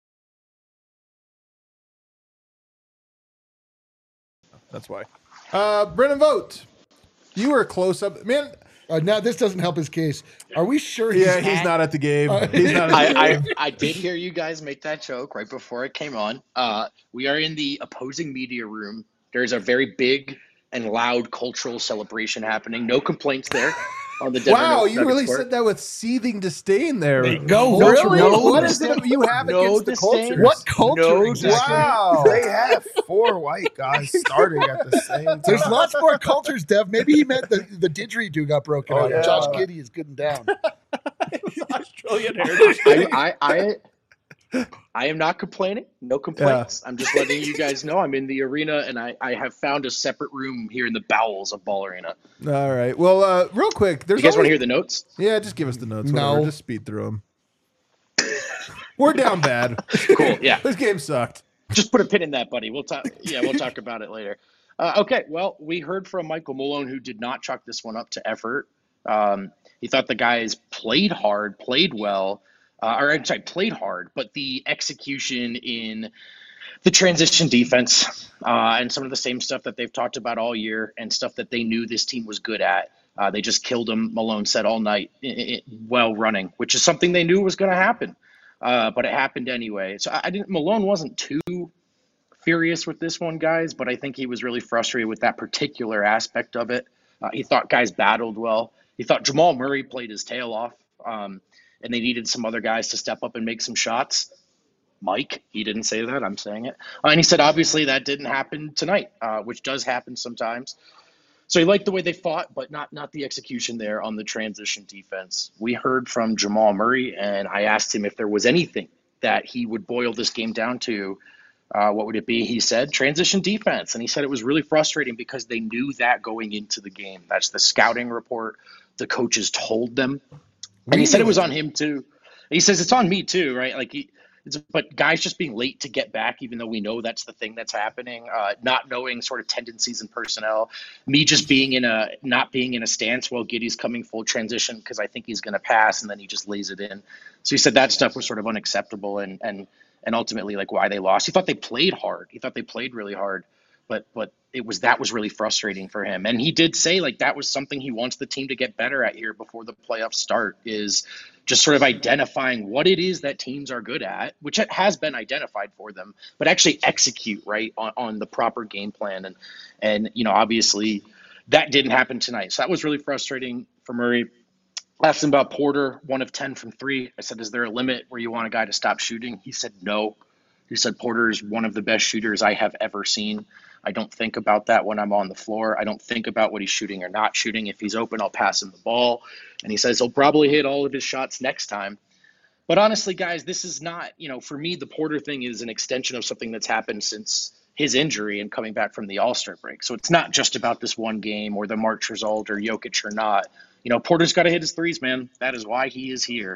That's why. Brennan, vote. You were close up, man. Now this doesn't help his case. Are we sure? He's not at the game. He's not. I did hear you guys make that joke right before it came on. We are in the opposing media room. There's a very big and loud cultural celebration happening. No complaints there on the Denver Wow, Nuggets you really court. said that with seething disdain there. No, Really? no, What is it you have no against the disdain. culture? What culture No exactly? Wow. They have 4 white guys starting at the same time. There's lots more cultures, Dev. Maybe he meant the didgeridoo got broken out. yeah. Josh Giddey is good and down. Australian heritage. I am not complaining. No complaints. I'm just letting you guys know I'm in the arena and I have found a separate room here in the bowels of Ball Arena. All right. Well, real quick. You guys want to hear the notes? Yeah, just give us the notes. No. Whatever. Just speed through them. We're down bad. Cool. Yeah. This game sucked. Just put a pin in that, buddy. We'll talk. Yeah, we'll talk about it later. Okay. Well, we heard from Michael Malone, who did not chalk this one up to effort. He thought the guys played hard, played well, played hard, but the execution in the transition defense and some of the same stuff that they've talked about all year and stuff that they knew this team was good at. They just killed them, Malone said, all night while running, which is something they knew was going to happen. But it happened anyway. So Malone wasn't too furious with this one, guys, but I think he was really frustrated with that particular aspect of it. He thought guys battled well. He thought Jamal Murray played his tail off, and they needed some other guys to step up and make some shots. Mike, he didn't say that. I'm saying it. And he said, obviously, that didn't happen tonight, which does happen sometimes. So he liked the way they fought, but not the execution there on the transition defense. We heard from Jamal Murray, and I asked him if there was anything that he would boil this game down to. What would it be? He said transition defense. And he said it was really frustrating because they knew that going into the game. That's the scouting report. The coaches told them. And he said it was on him too. And he says it's on me too, right? But guys just being late to get back, even though we know that's the thing that's happening, not knowing sort of tendencies and personnel, me just not being in a stance while Giddey's coming full transition because I think he's going to pass and then he just lays it in. So he said that stuff was sort of unacceptable and ultimately like why they lost. He thought they played hard. He thought they played really hard, but that was really frustrating for him. And he did say like that was something he wants the team to get better at here before the playoffs start, is just sort of identifying what it is that teams are good at, which has been identified for them, but actually execute right on the proper game plan. And obviously that didn't happen tonight. So that was really frustrating for Murray. Asked him about Porter, 1 of 10 from 3. I said, is there a limit where you want a guy to stop shooting? He said, no. He said, Porter is one of the best shooters I have ever seen. I don't think about that when I'm on the floor. I don't think about what he's shooting or not shooting. If he's open, I'll pass him the ball. And he says he'll probably hit all of his shots next time. But honestly, guys, this is not, for me, the Porter thing is an extension of something that's happened since his injury and coming back from the All-Star break. So it's not just about this one game or the March result or Jokic or not. Porter's got to hit his threes, man. That is why he is here.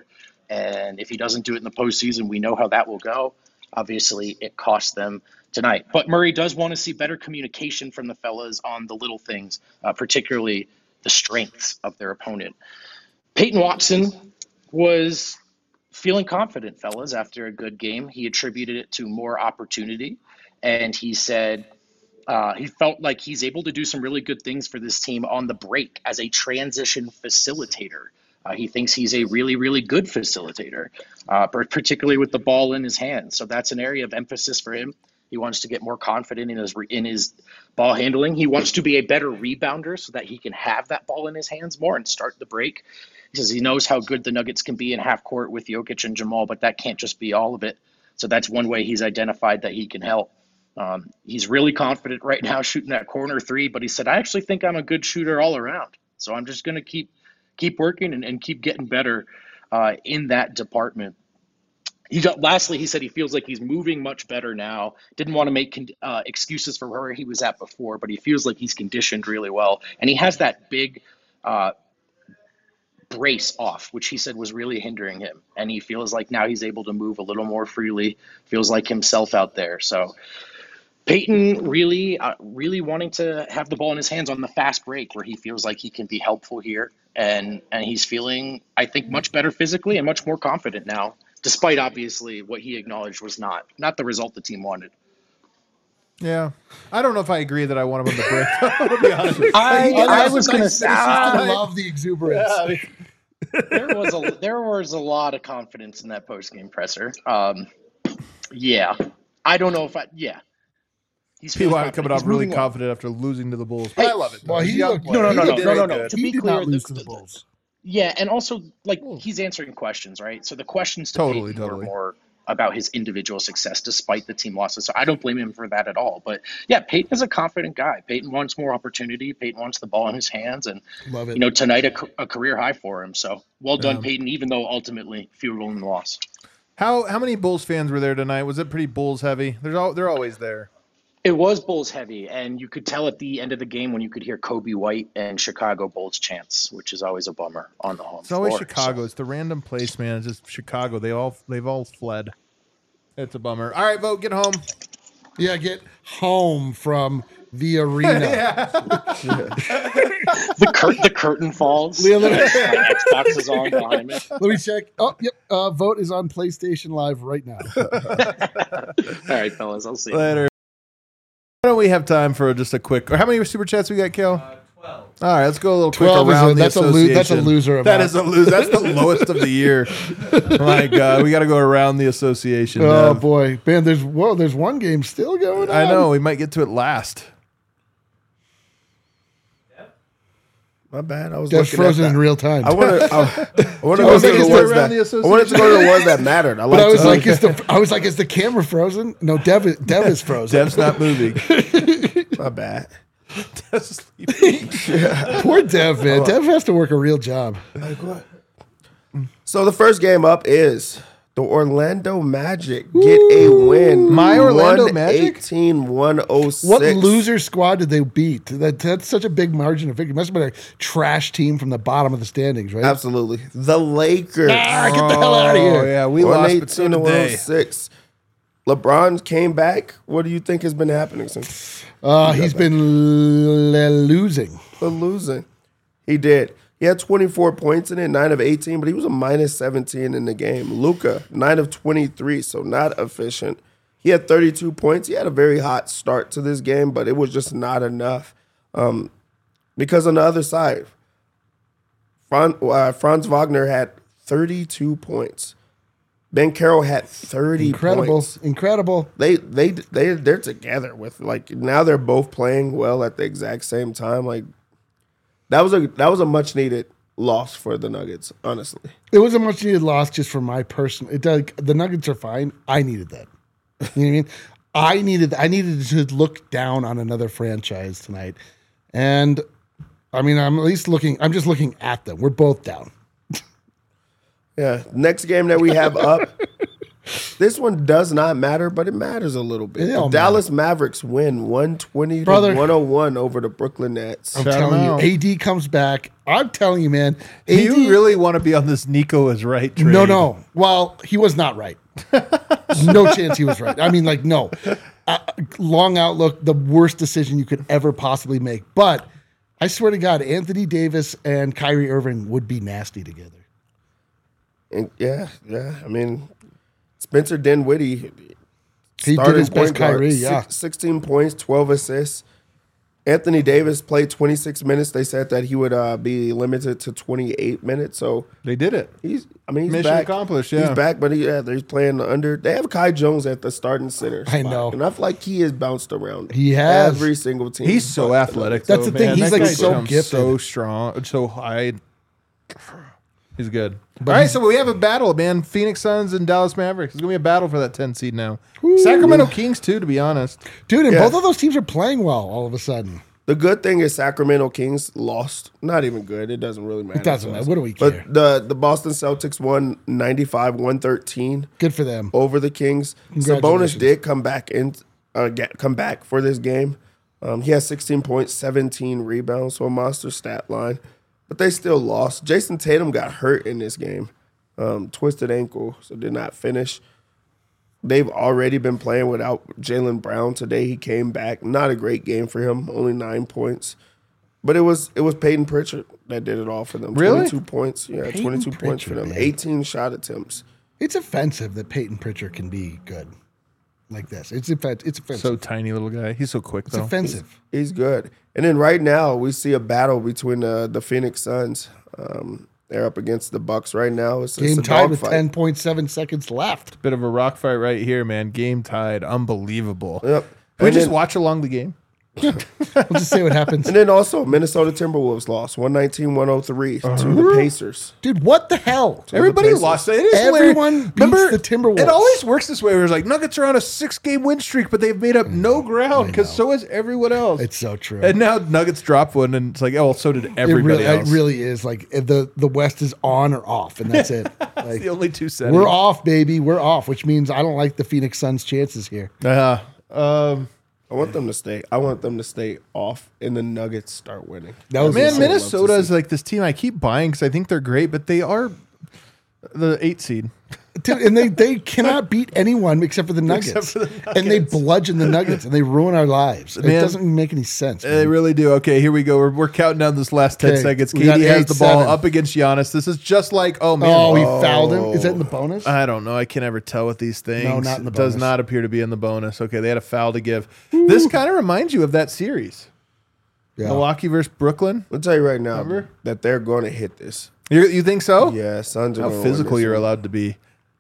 And if he doesn't do it in the postseason, we know how that will go. Obviously, it cost them tonight. But Murray does want to see better communication from the fellas on the little things, particularly the strengths of their opponent. Peyton Watson was feeling confident, fellas, after a good game. He attributed it to more opportunity, and he said he felt like he's able to do some really good things for this team on the break as a transition facilitator. He thinks he's a really, really good facilitator, particularly with the ball in his hands. So that's an area of emphasis for him. He wants to get more confident in his ball handling. He wants to be a better rebounder so that he can have that ball in his hands more and start the break. He says he knows how good the Nuggets can be in half court with Jokic and Jamal, but that can't just be all of it. So that's one way he's identified that he can help. He's really confident right now shooting that corner three, but he said, I actually think I'm a good shooter all around. So I'm just going to keep working and keep getting better in that department. Lastly, he said he feels like he's moving much better now. Didn't want to make excuses for where he was at before, but he feels like he's conditioned really well. And he has that big brace off, which he said was really hindering him. And he feels like now he's able to move a little more freely, feels like himself out there. So Peyton really wanting to have the ball in his hands on the fast break where he feels like he can be helpful here. And he's feeling, I think, much better physically and much more confident now, despite obviously what he acknowledged was not the result the team wanted. Yeah. I don't know if I agree that I want him on the break. To be honest. I was going to say, I love the exuberance. There was a lot of confidence in that post-game presser. Yeah. I don't know if He's P.Y. coming off really confident after losing to the Bulls. But I love it. Well, no. To He be did clear, not lose to the Bulls. Yeah, and also he's answering questions, right? So the questions to Peyton were more about his individual success despite the team losses. So I don't blame him for that at all. But yeah, Peyton is a confident guy. Peyton wants more opportunity. Peyton wants the ball in his hands, and love it. Tonight a career high for him. So well done, Peyton. Even though ultimately field goal in the loss. How many Bulls fans were there tonight? Was it pretty Bulls heavy? They're always there. It was Bulls heavy, and you could tell at the end of the game when you could hear Kobe White and Chicago Bulls chants, which is always a bummer on the home floor. It's always Chicago. So. It's the random place, man. It's just Chicago. They've all fled. It's a bummer. All right, Vogt, get home. Yeah, get home from the arena. The curtain falls. Xbox is on behind me. Let me check. Oh, yep. Vogt is on PlayStation Live right now. All right, fellas. I'll see you later. Why don't we have time for just a quick? How many super chats we got, Kel? 12. All right, let's go a little quick around the association. That's a loser. That is a loser. That's the lowest of the year. My God, we got to go around the association. Oh boy, man! There's one game still going on. I know. We might get to it last. My bad. I was That's frozen in real time. I wanted to go to the ones that mattered. I was like, is the camera frozen? No, Dev is frozen. Dev's not moving. My bad. Dev's sleeping. Poor Dev, man. Dev has to work a real job. Like what? So the first game up is the Orlando Magic get a win. My Orlando Magic? 118-106. What loser squad did they beat? That's such a big margin of victory. It must have been a trash team from the bottom of the standings, right? Absolutely. The Lakers. Get the hell out of here. Oh, yeah, we lost, but so did they. 118-106. LeBron came back. What do you think has been happening since? He's been losing. Losing. He did. He had 24 points in it, 9 of 18, but he was a minus 17 in the game. Luka, 9 of 23, so not efficient. He had 32 points. He had a very hot start to this game, but it was just not enough. Because on the other side, Franz Wagner had 32 points. Ben Carroll had 30 points. Incredible. They're together with now they're both playing well at the exact same time. That was a much needed loss for the Nuggets, honestly. It was a much needed loss just for my personal. The Nuggets are fine. I needed that. You know what I mean? I needed to look down on another franchise tonight, and I mean I'm just looking at them. We're both down. Yeah. Next game that we have up This one does not matter, but it matters a little bit. It The all Dallas Mavericks win 120 Brother. to 101 over the Brooklyn Nets. I'm Shout telling him out. you, AD comes back. I'm telling you, man. Do you really want to be on this Nico is right trade? No. Well, he was not right. No chance he was right. I mean, like, no. Long outlook, the worst decision you could ever possibly make. But I swear to God, Anthony Davis and Kyrie Irving would be nasty together. And yeah. I mean, Spencer Dinwiddie, He did his best Kyrie, yeah. 16 points, 12 assists. Anthony Davis played 26 minutes. They said that he would be limited to 28 minutes. So They did it. he's Mission back. accomplished, yeah. He's back, but he's playing under. They have Kai Jones at the starting center. I spot, know. and I feel like he has bounced around. He has. every single team. He's so athletic. That's though, the thing. man. He's, That like, guy so jumps gifted. so strong, so high. He's good. All right, so we have a battle, man. Phoenix Suns and Dallas Mavericks. It's gonna be a battle for that 10 seed now. Sacramento Kings too, to be honest. Dude, and Yeah. both of those teams are playing well all of a sudden. The good thing is Sacramento Kings lost. Not even good. It doesn't really matter. It doesn't to matter. us. What do we care? But the Boston Celtics won 95-113 Good for them. over the Kings. Sabonis Congratulations. did come back for this game. He has 16 points, 17 rebounds, so a monster stat line. But they still lost. Jason Tatum got hurt in this game. Twisted ankle, so did not finish. They've already been playing without Jaylen Brown. Today he came back. Not a great game for him, only 9 points. But it was Peyton Pritchard that did it all for them. Really? 22 points. Yeah, Peyton 22 points for Pritchard, them. man. 18 shot attempts. It's offensive that Peyton Pritchard can be good like this. It's offensive. So tiny little guy. He's so quick It's though. offensive. He's good. And then right now we see a battle between the Phoenix Suns. They're up against the Bucks right now. It's Game a tied with dogfight. 10.7 seconds left. Bit of a rock fight right here, man. Game tied. Unbelievable. Yep. Can we And just then- watch along the game? We'll just see what happens. And then also Minnesota Timberwolves lost 119-103 to the Pacers. Dude, what the hell? Everybody Pacers. lost. It is Everyone hilarious. beats the Timberwolves. It always works this way. Where it's like Nuggets are on a 6-game win streak, but they've made up no ground because so is everyone else. It's so true. And now Nuggets drop one, and it's like, oh, well, so did everybody else. It really is. Like the West is on or off, and that's it. It's Like, the only two settings. we're off, baby. We're off, which means I don't like the Phoenix Suns' chances here. I want them to stay. I want them to stay off, and the Nuggets start winning. That was Man, insane. Minnesota is like this team I keep buying because I think they're great, but they are the 8 seed. Dude, and they cannot beat anyone except for the Nuggets. Except for the And they bludgeon the Nuggets and they ruin our lives. It Man. doesn't make any sense. They man. really do. Okay, here we go. We're counting down this last 10 Okay, seconds. we got KD has the ball 8-7. up against Giannis. This is just like, oh, man. Oh, he fouled him. Is that in the bonus? I don't know. I can never tell with these things. No, not in the It does bonus. not appear to be in the bonus. Okay, they had a foul to give. This kind of reminds you of that series. Yeah. Milwaukee versus Brooklyn. I'll tell you right now Remember? that they're going to hit this. You think so? Yeah, Suns are How gonna win physical this you're one. allowed to be.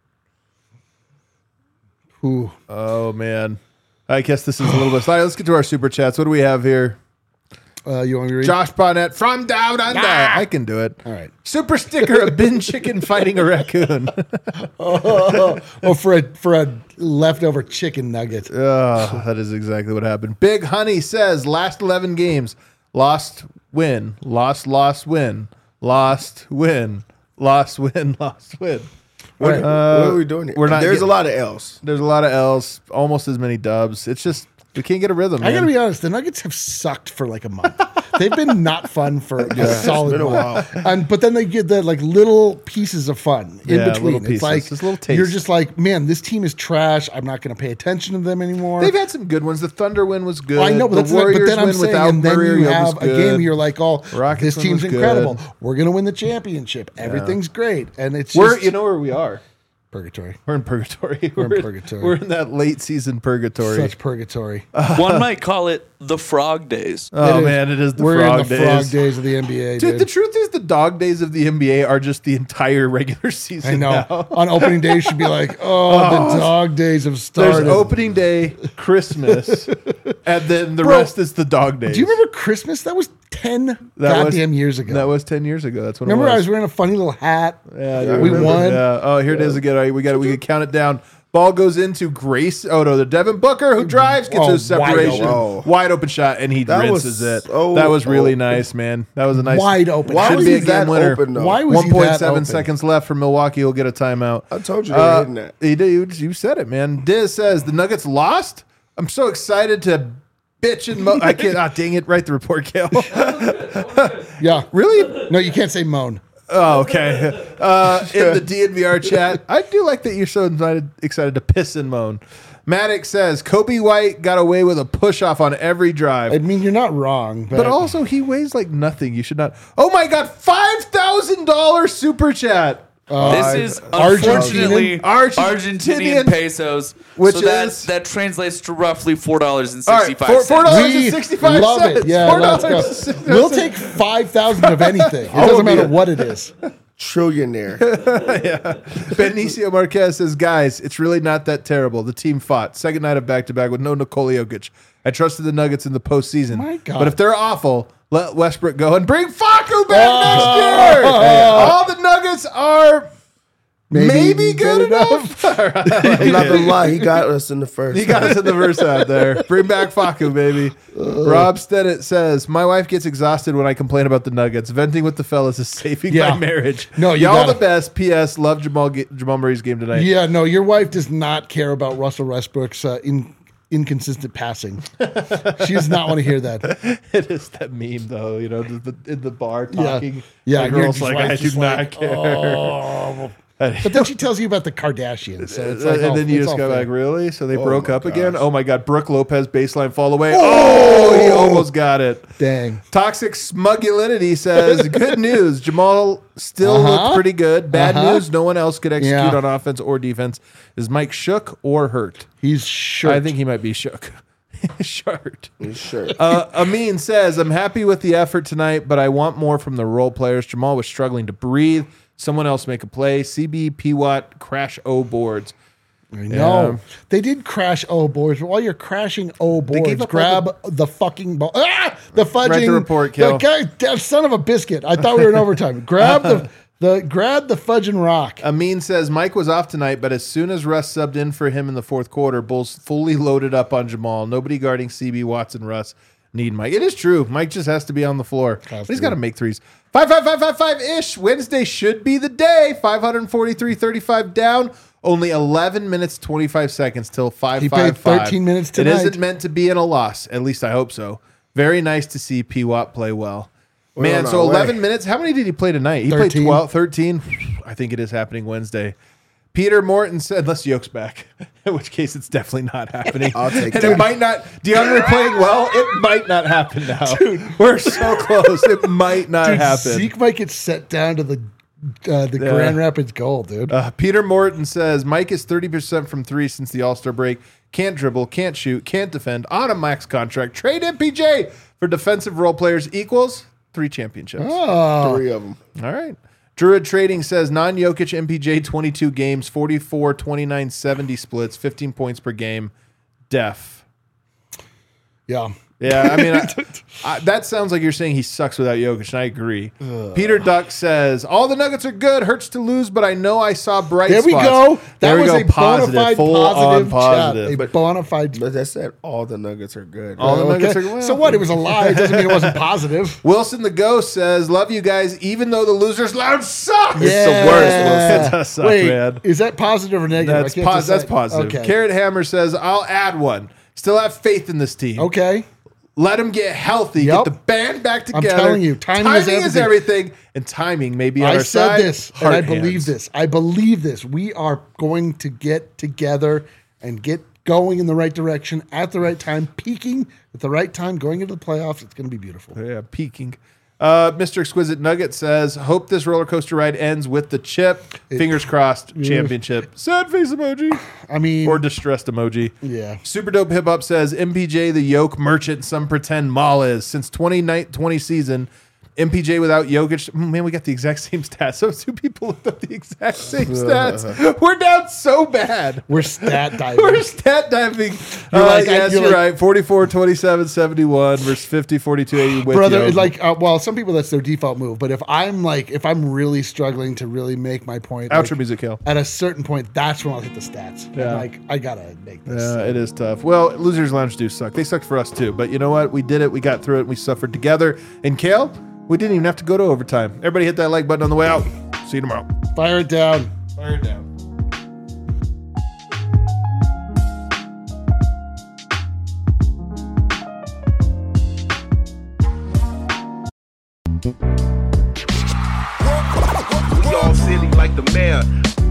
Ooh. Oh, man. I guess this is a little bit. All right, let's get to our super chats. What do we have here? You want me to read? Josh Bonnet from Down Under. I can do it. All right. Super sticker: a bin chicken fighting a raccoon. Oh, for a leftover chicken nugget. Oh, that is exactly what happened. Big Honey says last 11 games, lost, win, lost, win, lost, win, lost, win, lost, win. What are we doing here? we're not There's getting- a lot of L's. There's a lot of L's, almost as many dubs. It's just we can't get a rhythm. I Man. gotta be honest, the Nuggets have sucked for like a month. They've been not fun for a solid been a while. But then they get the like little pieces of fun in Yeah, between. little It's pieces. like Just little taste. you're just like, man, this team is trash. I'm not gonna pay attention to them anymore. They've had some good ones. The Thunder win was good. I know, but the that's not, but Warriors then I'm win saying, without and then Murray you was have a good. game where you're like, oh, Rockets this one team's was incredible. good. We're gonna win the championship. Everything's great, and it's We're just you know where we are. purgatory. We're in purgatory. We're in purgatory. We're in that late season purgatory. Such purgatory. One might call it the frog days. Oh It is. man, it is the We're frog in the days. frog days of the NBA, Dude, dude. the truth is the dog days of the NBA are just the entire regular season. I know. Now. On opening day, you should be like, oh, the dog days have There's started. opening day, Christmas, and then the Bro, rest is the dog days. Do you remember Christmas? That was 10 That goddamn was, years ago. That was 10 years ago. That's what Remember, it I was. was wearing a funny little hat. Yeah, I we remember. won. Yeah. Oh, here it is again. All right, we can count it down. Ball goes into Grace. Oh no, the Devin Booker who drives gets those separation, wide open shot, and he rinses it. That was really nice, man. That was a nice wide open. Why was be he a game that winner. open, though? Why was he that 1.7 open? seconds left for Milwaukee. He'll get a timeout. I told you they were hitting that. He did. You said it, man. Diz says the Nuggets lost. I'm so excited to bitch and moan. I can't. Dang it! Write the report, Kale. Yeah. Really? No, you can't say moan. Oh, okay. In the DNVR chat, I do like that you're so excited to piss and moan. Maddox says Kobe White got away with a push off on every drive. I mean, you're not wrong. But also, he weighs like nothing. You should not. Oh my God, $5,000 super chat. This is Argentinian? unfortunately Argentinian pesos, Which so is- that translates to roughly $4.65. All right, $4.65. We love it. Yeah, let's go. We'll take 5,000 of anything. It doesn't matter what it is. Trillionaire. Benicio Marquez says, guys, it's really not that terrible. The team fought. Second night of back-to-back with no Nikola Jokic. I trusted the Nuggets in the postseason. My God. But if they're awful, let Westbrook go and bring Facu back next year. All the Nuggets are maybe good enough. I'm not gonna lie, he got us in the first. He got us in the verse out there. Bring back Facu, baby. Rob Stennett says, my wife gets exhausted when I complain about the Nuggets. Venting with the fellas is saving my marriage. No, you Y'all gotta- the best. P.S. Love Jamal Murray's game tonight. Yeah, no, your wife does not care about Russell Westbrook's inconsistent passing. She does not want to hear that. It is that meme, though, you know, in the bar Yeah. talking. Yeah, the and your girl's like, wife's I do just not like, care. "Oh." But then she tells you about the Kardashians. So it's like, and then you it's just all go fair. like, really? So they broke my up again? gosh. Oh, my God. Brooke Lopez baseline fall away. Oh, he almost got it. Dang. Toxic Smugulinity says, good news. Jamal still looked pretty good. Bad news. No one else could execute Yeah. on offense or defense. Is Mike shook or hurt? He's sure. I think he might be shook. Short. Sure. Amin says, I'm happy with the effort tonight, but I want more from the role players. Jamal was struggling to breathe. Someone else make a play. CB, P-Watt, crash O boards. No, they did crash O boards, but while you're crashing O gave boards, up grab the fucking ball. The fudging. Write the report, Kel. The guy, that son of a biscuit. I thought we were in overtime. Grab grab the fudging rock. Amin says, Mike was off tonight, but as soon as Russ subbed in for him in the fourth quarter, Bulls fully loaded up on Jamal. Nobody guarding CB, Watson, Russ need Mike. It is true. Mike just has to be on the floor. But he's got to make threes. 5-5-5-5-5-ish. Wednesday should be the day. 543-35 down. Only 11 minutes, 25 seconds till 5-5-5. He played 13 minutes It tonight. isn't meant to be in a loss. At least I hope so. Very nice to see P-Watt play well. Man, on so our way. 11 minutes. How many did he play tonight? He 13. played 12, 13. I think it is happening Wednesday. Peter Morton said, unless Yoke's back, in which case it's definitely not happening. I'll take and that. it might not. DeAndre playing well, it might not happen now. Dude, we're so close. It might not happen. Zeke might get set down to the Grand Rapids Gold, dude. Peter Morton says, Mike is 30% from three since the All-Star break. Can't dribble, can't shoot, can't defend. On a max contract. Trade MPJ for defensive role players equals 3 championships. 3 of them. All right. Druid Trading says non-Jokic MPJ 22 games, 44, 29, 70 splits, 15 points per game. Def. Yeah. Yeah, I mean, that sounds like you're saying he sucks without Jokic, and I agree. Peter Duck says, all the Nuggets are good. Hurts to lose, but I know I saw bright There we spots. go. That There we was go. a bona fide Full-on positive chat. A bona fide. But that said, all the Nuggets are good. All the Nuggets Okay. are well. So what? It was a lie. It doesn't mean it wasn't positive. Wilson the Ghost says, love you guys, even though the losers loud sucks. It's the worst. It does suck, Wait, man. is that positive or negative? That's, I can't that's decide. positive. Okay. Carrot Hammer says, I'll add one. Still have faith in this team. Okay. Let them get healthy. Yep. Get the band back together. telling you, timing is everything. And timing may be on I our said side. this, and I Heart believe hands. this. I believe this. We are going to get together and get going in the right direction at the right time, peaking at the right time, going into the playoffs. It's going to be beautiful. Yeah, peaking. Mr. Exquisite Nugget says, hope this roller coaster ride ends with the chip. Fingers crossed. Championship. Sad face emoji. I mean, Or distressed emoji. yeah. Super Dope Hip Hop says, MPJ the yoke merchant some pretend Maul is. Since 2020 season, MPJ without Jokic. Man, we got the exact same stats. Those two people looked up the exact same stats. We're down so bad. We're stat diving. We're stat diving. You're right. 44, 27, 71 versus 50, 42, 80 with Brother, Jokic. well, some people that's their default move. But if I'm really struggling to really make my point, Outro music, Hill. at a certain point, that's when I'll hit the stats. Yeah. Like, I gotta make this. Yeah, it is tough. Well, Losers Lounge do suck. They sucked for us too. But you know what? We did it. We got through it. We suffered together. And Kale, we didn't even have to go to overtime. Everybody hit that like button on the way out. See you tomorrow. Fire it down. Fire it down. We all silly like the mayor.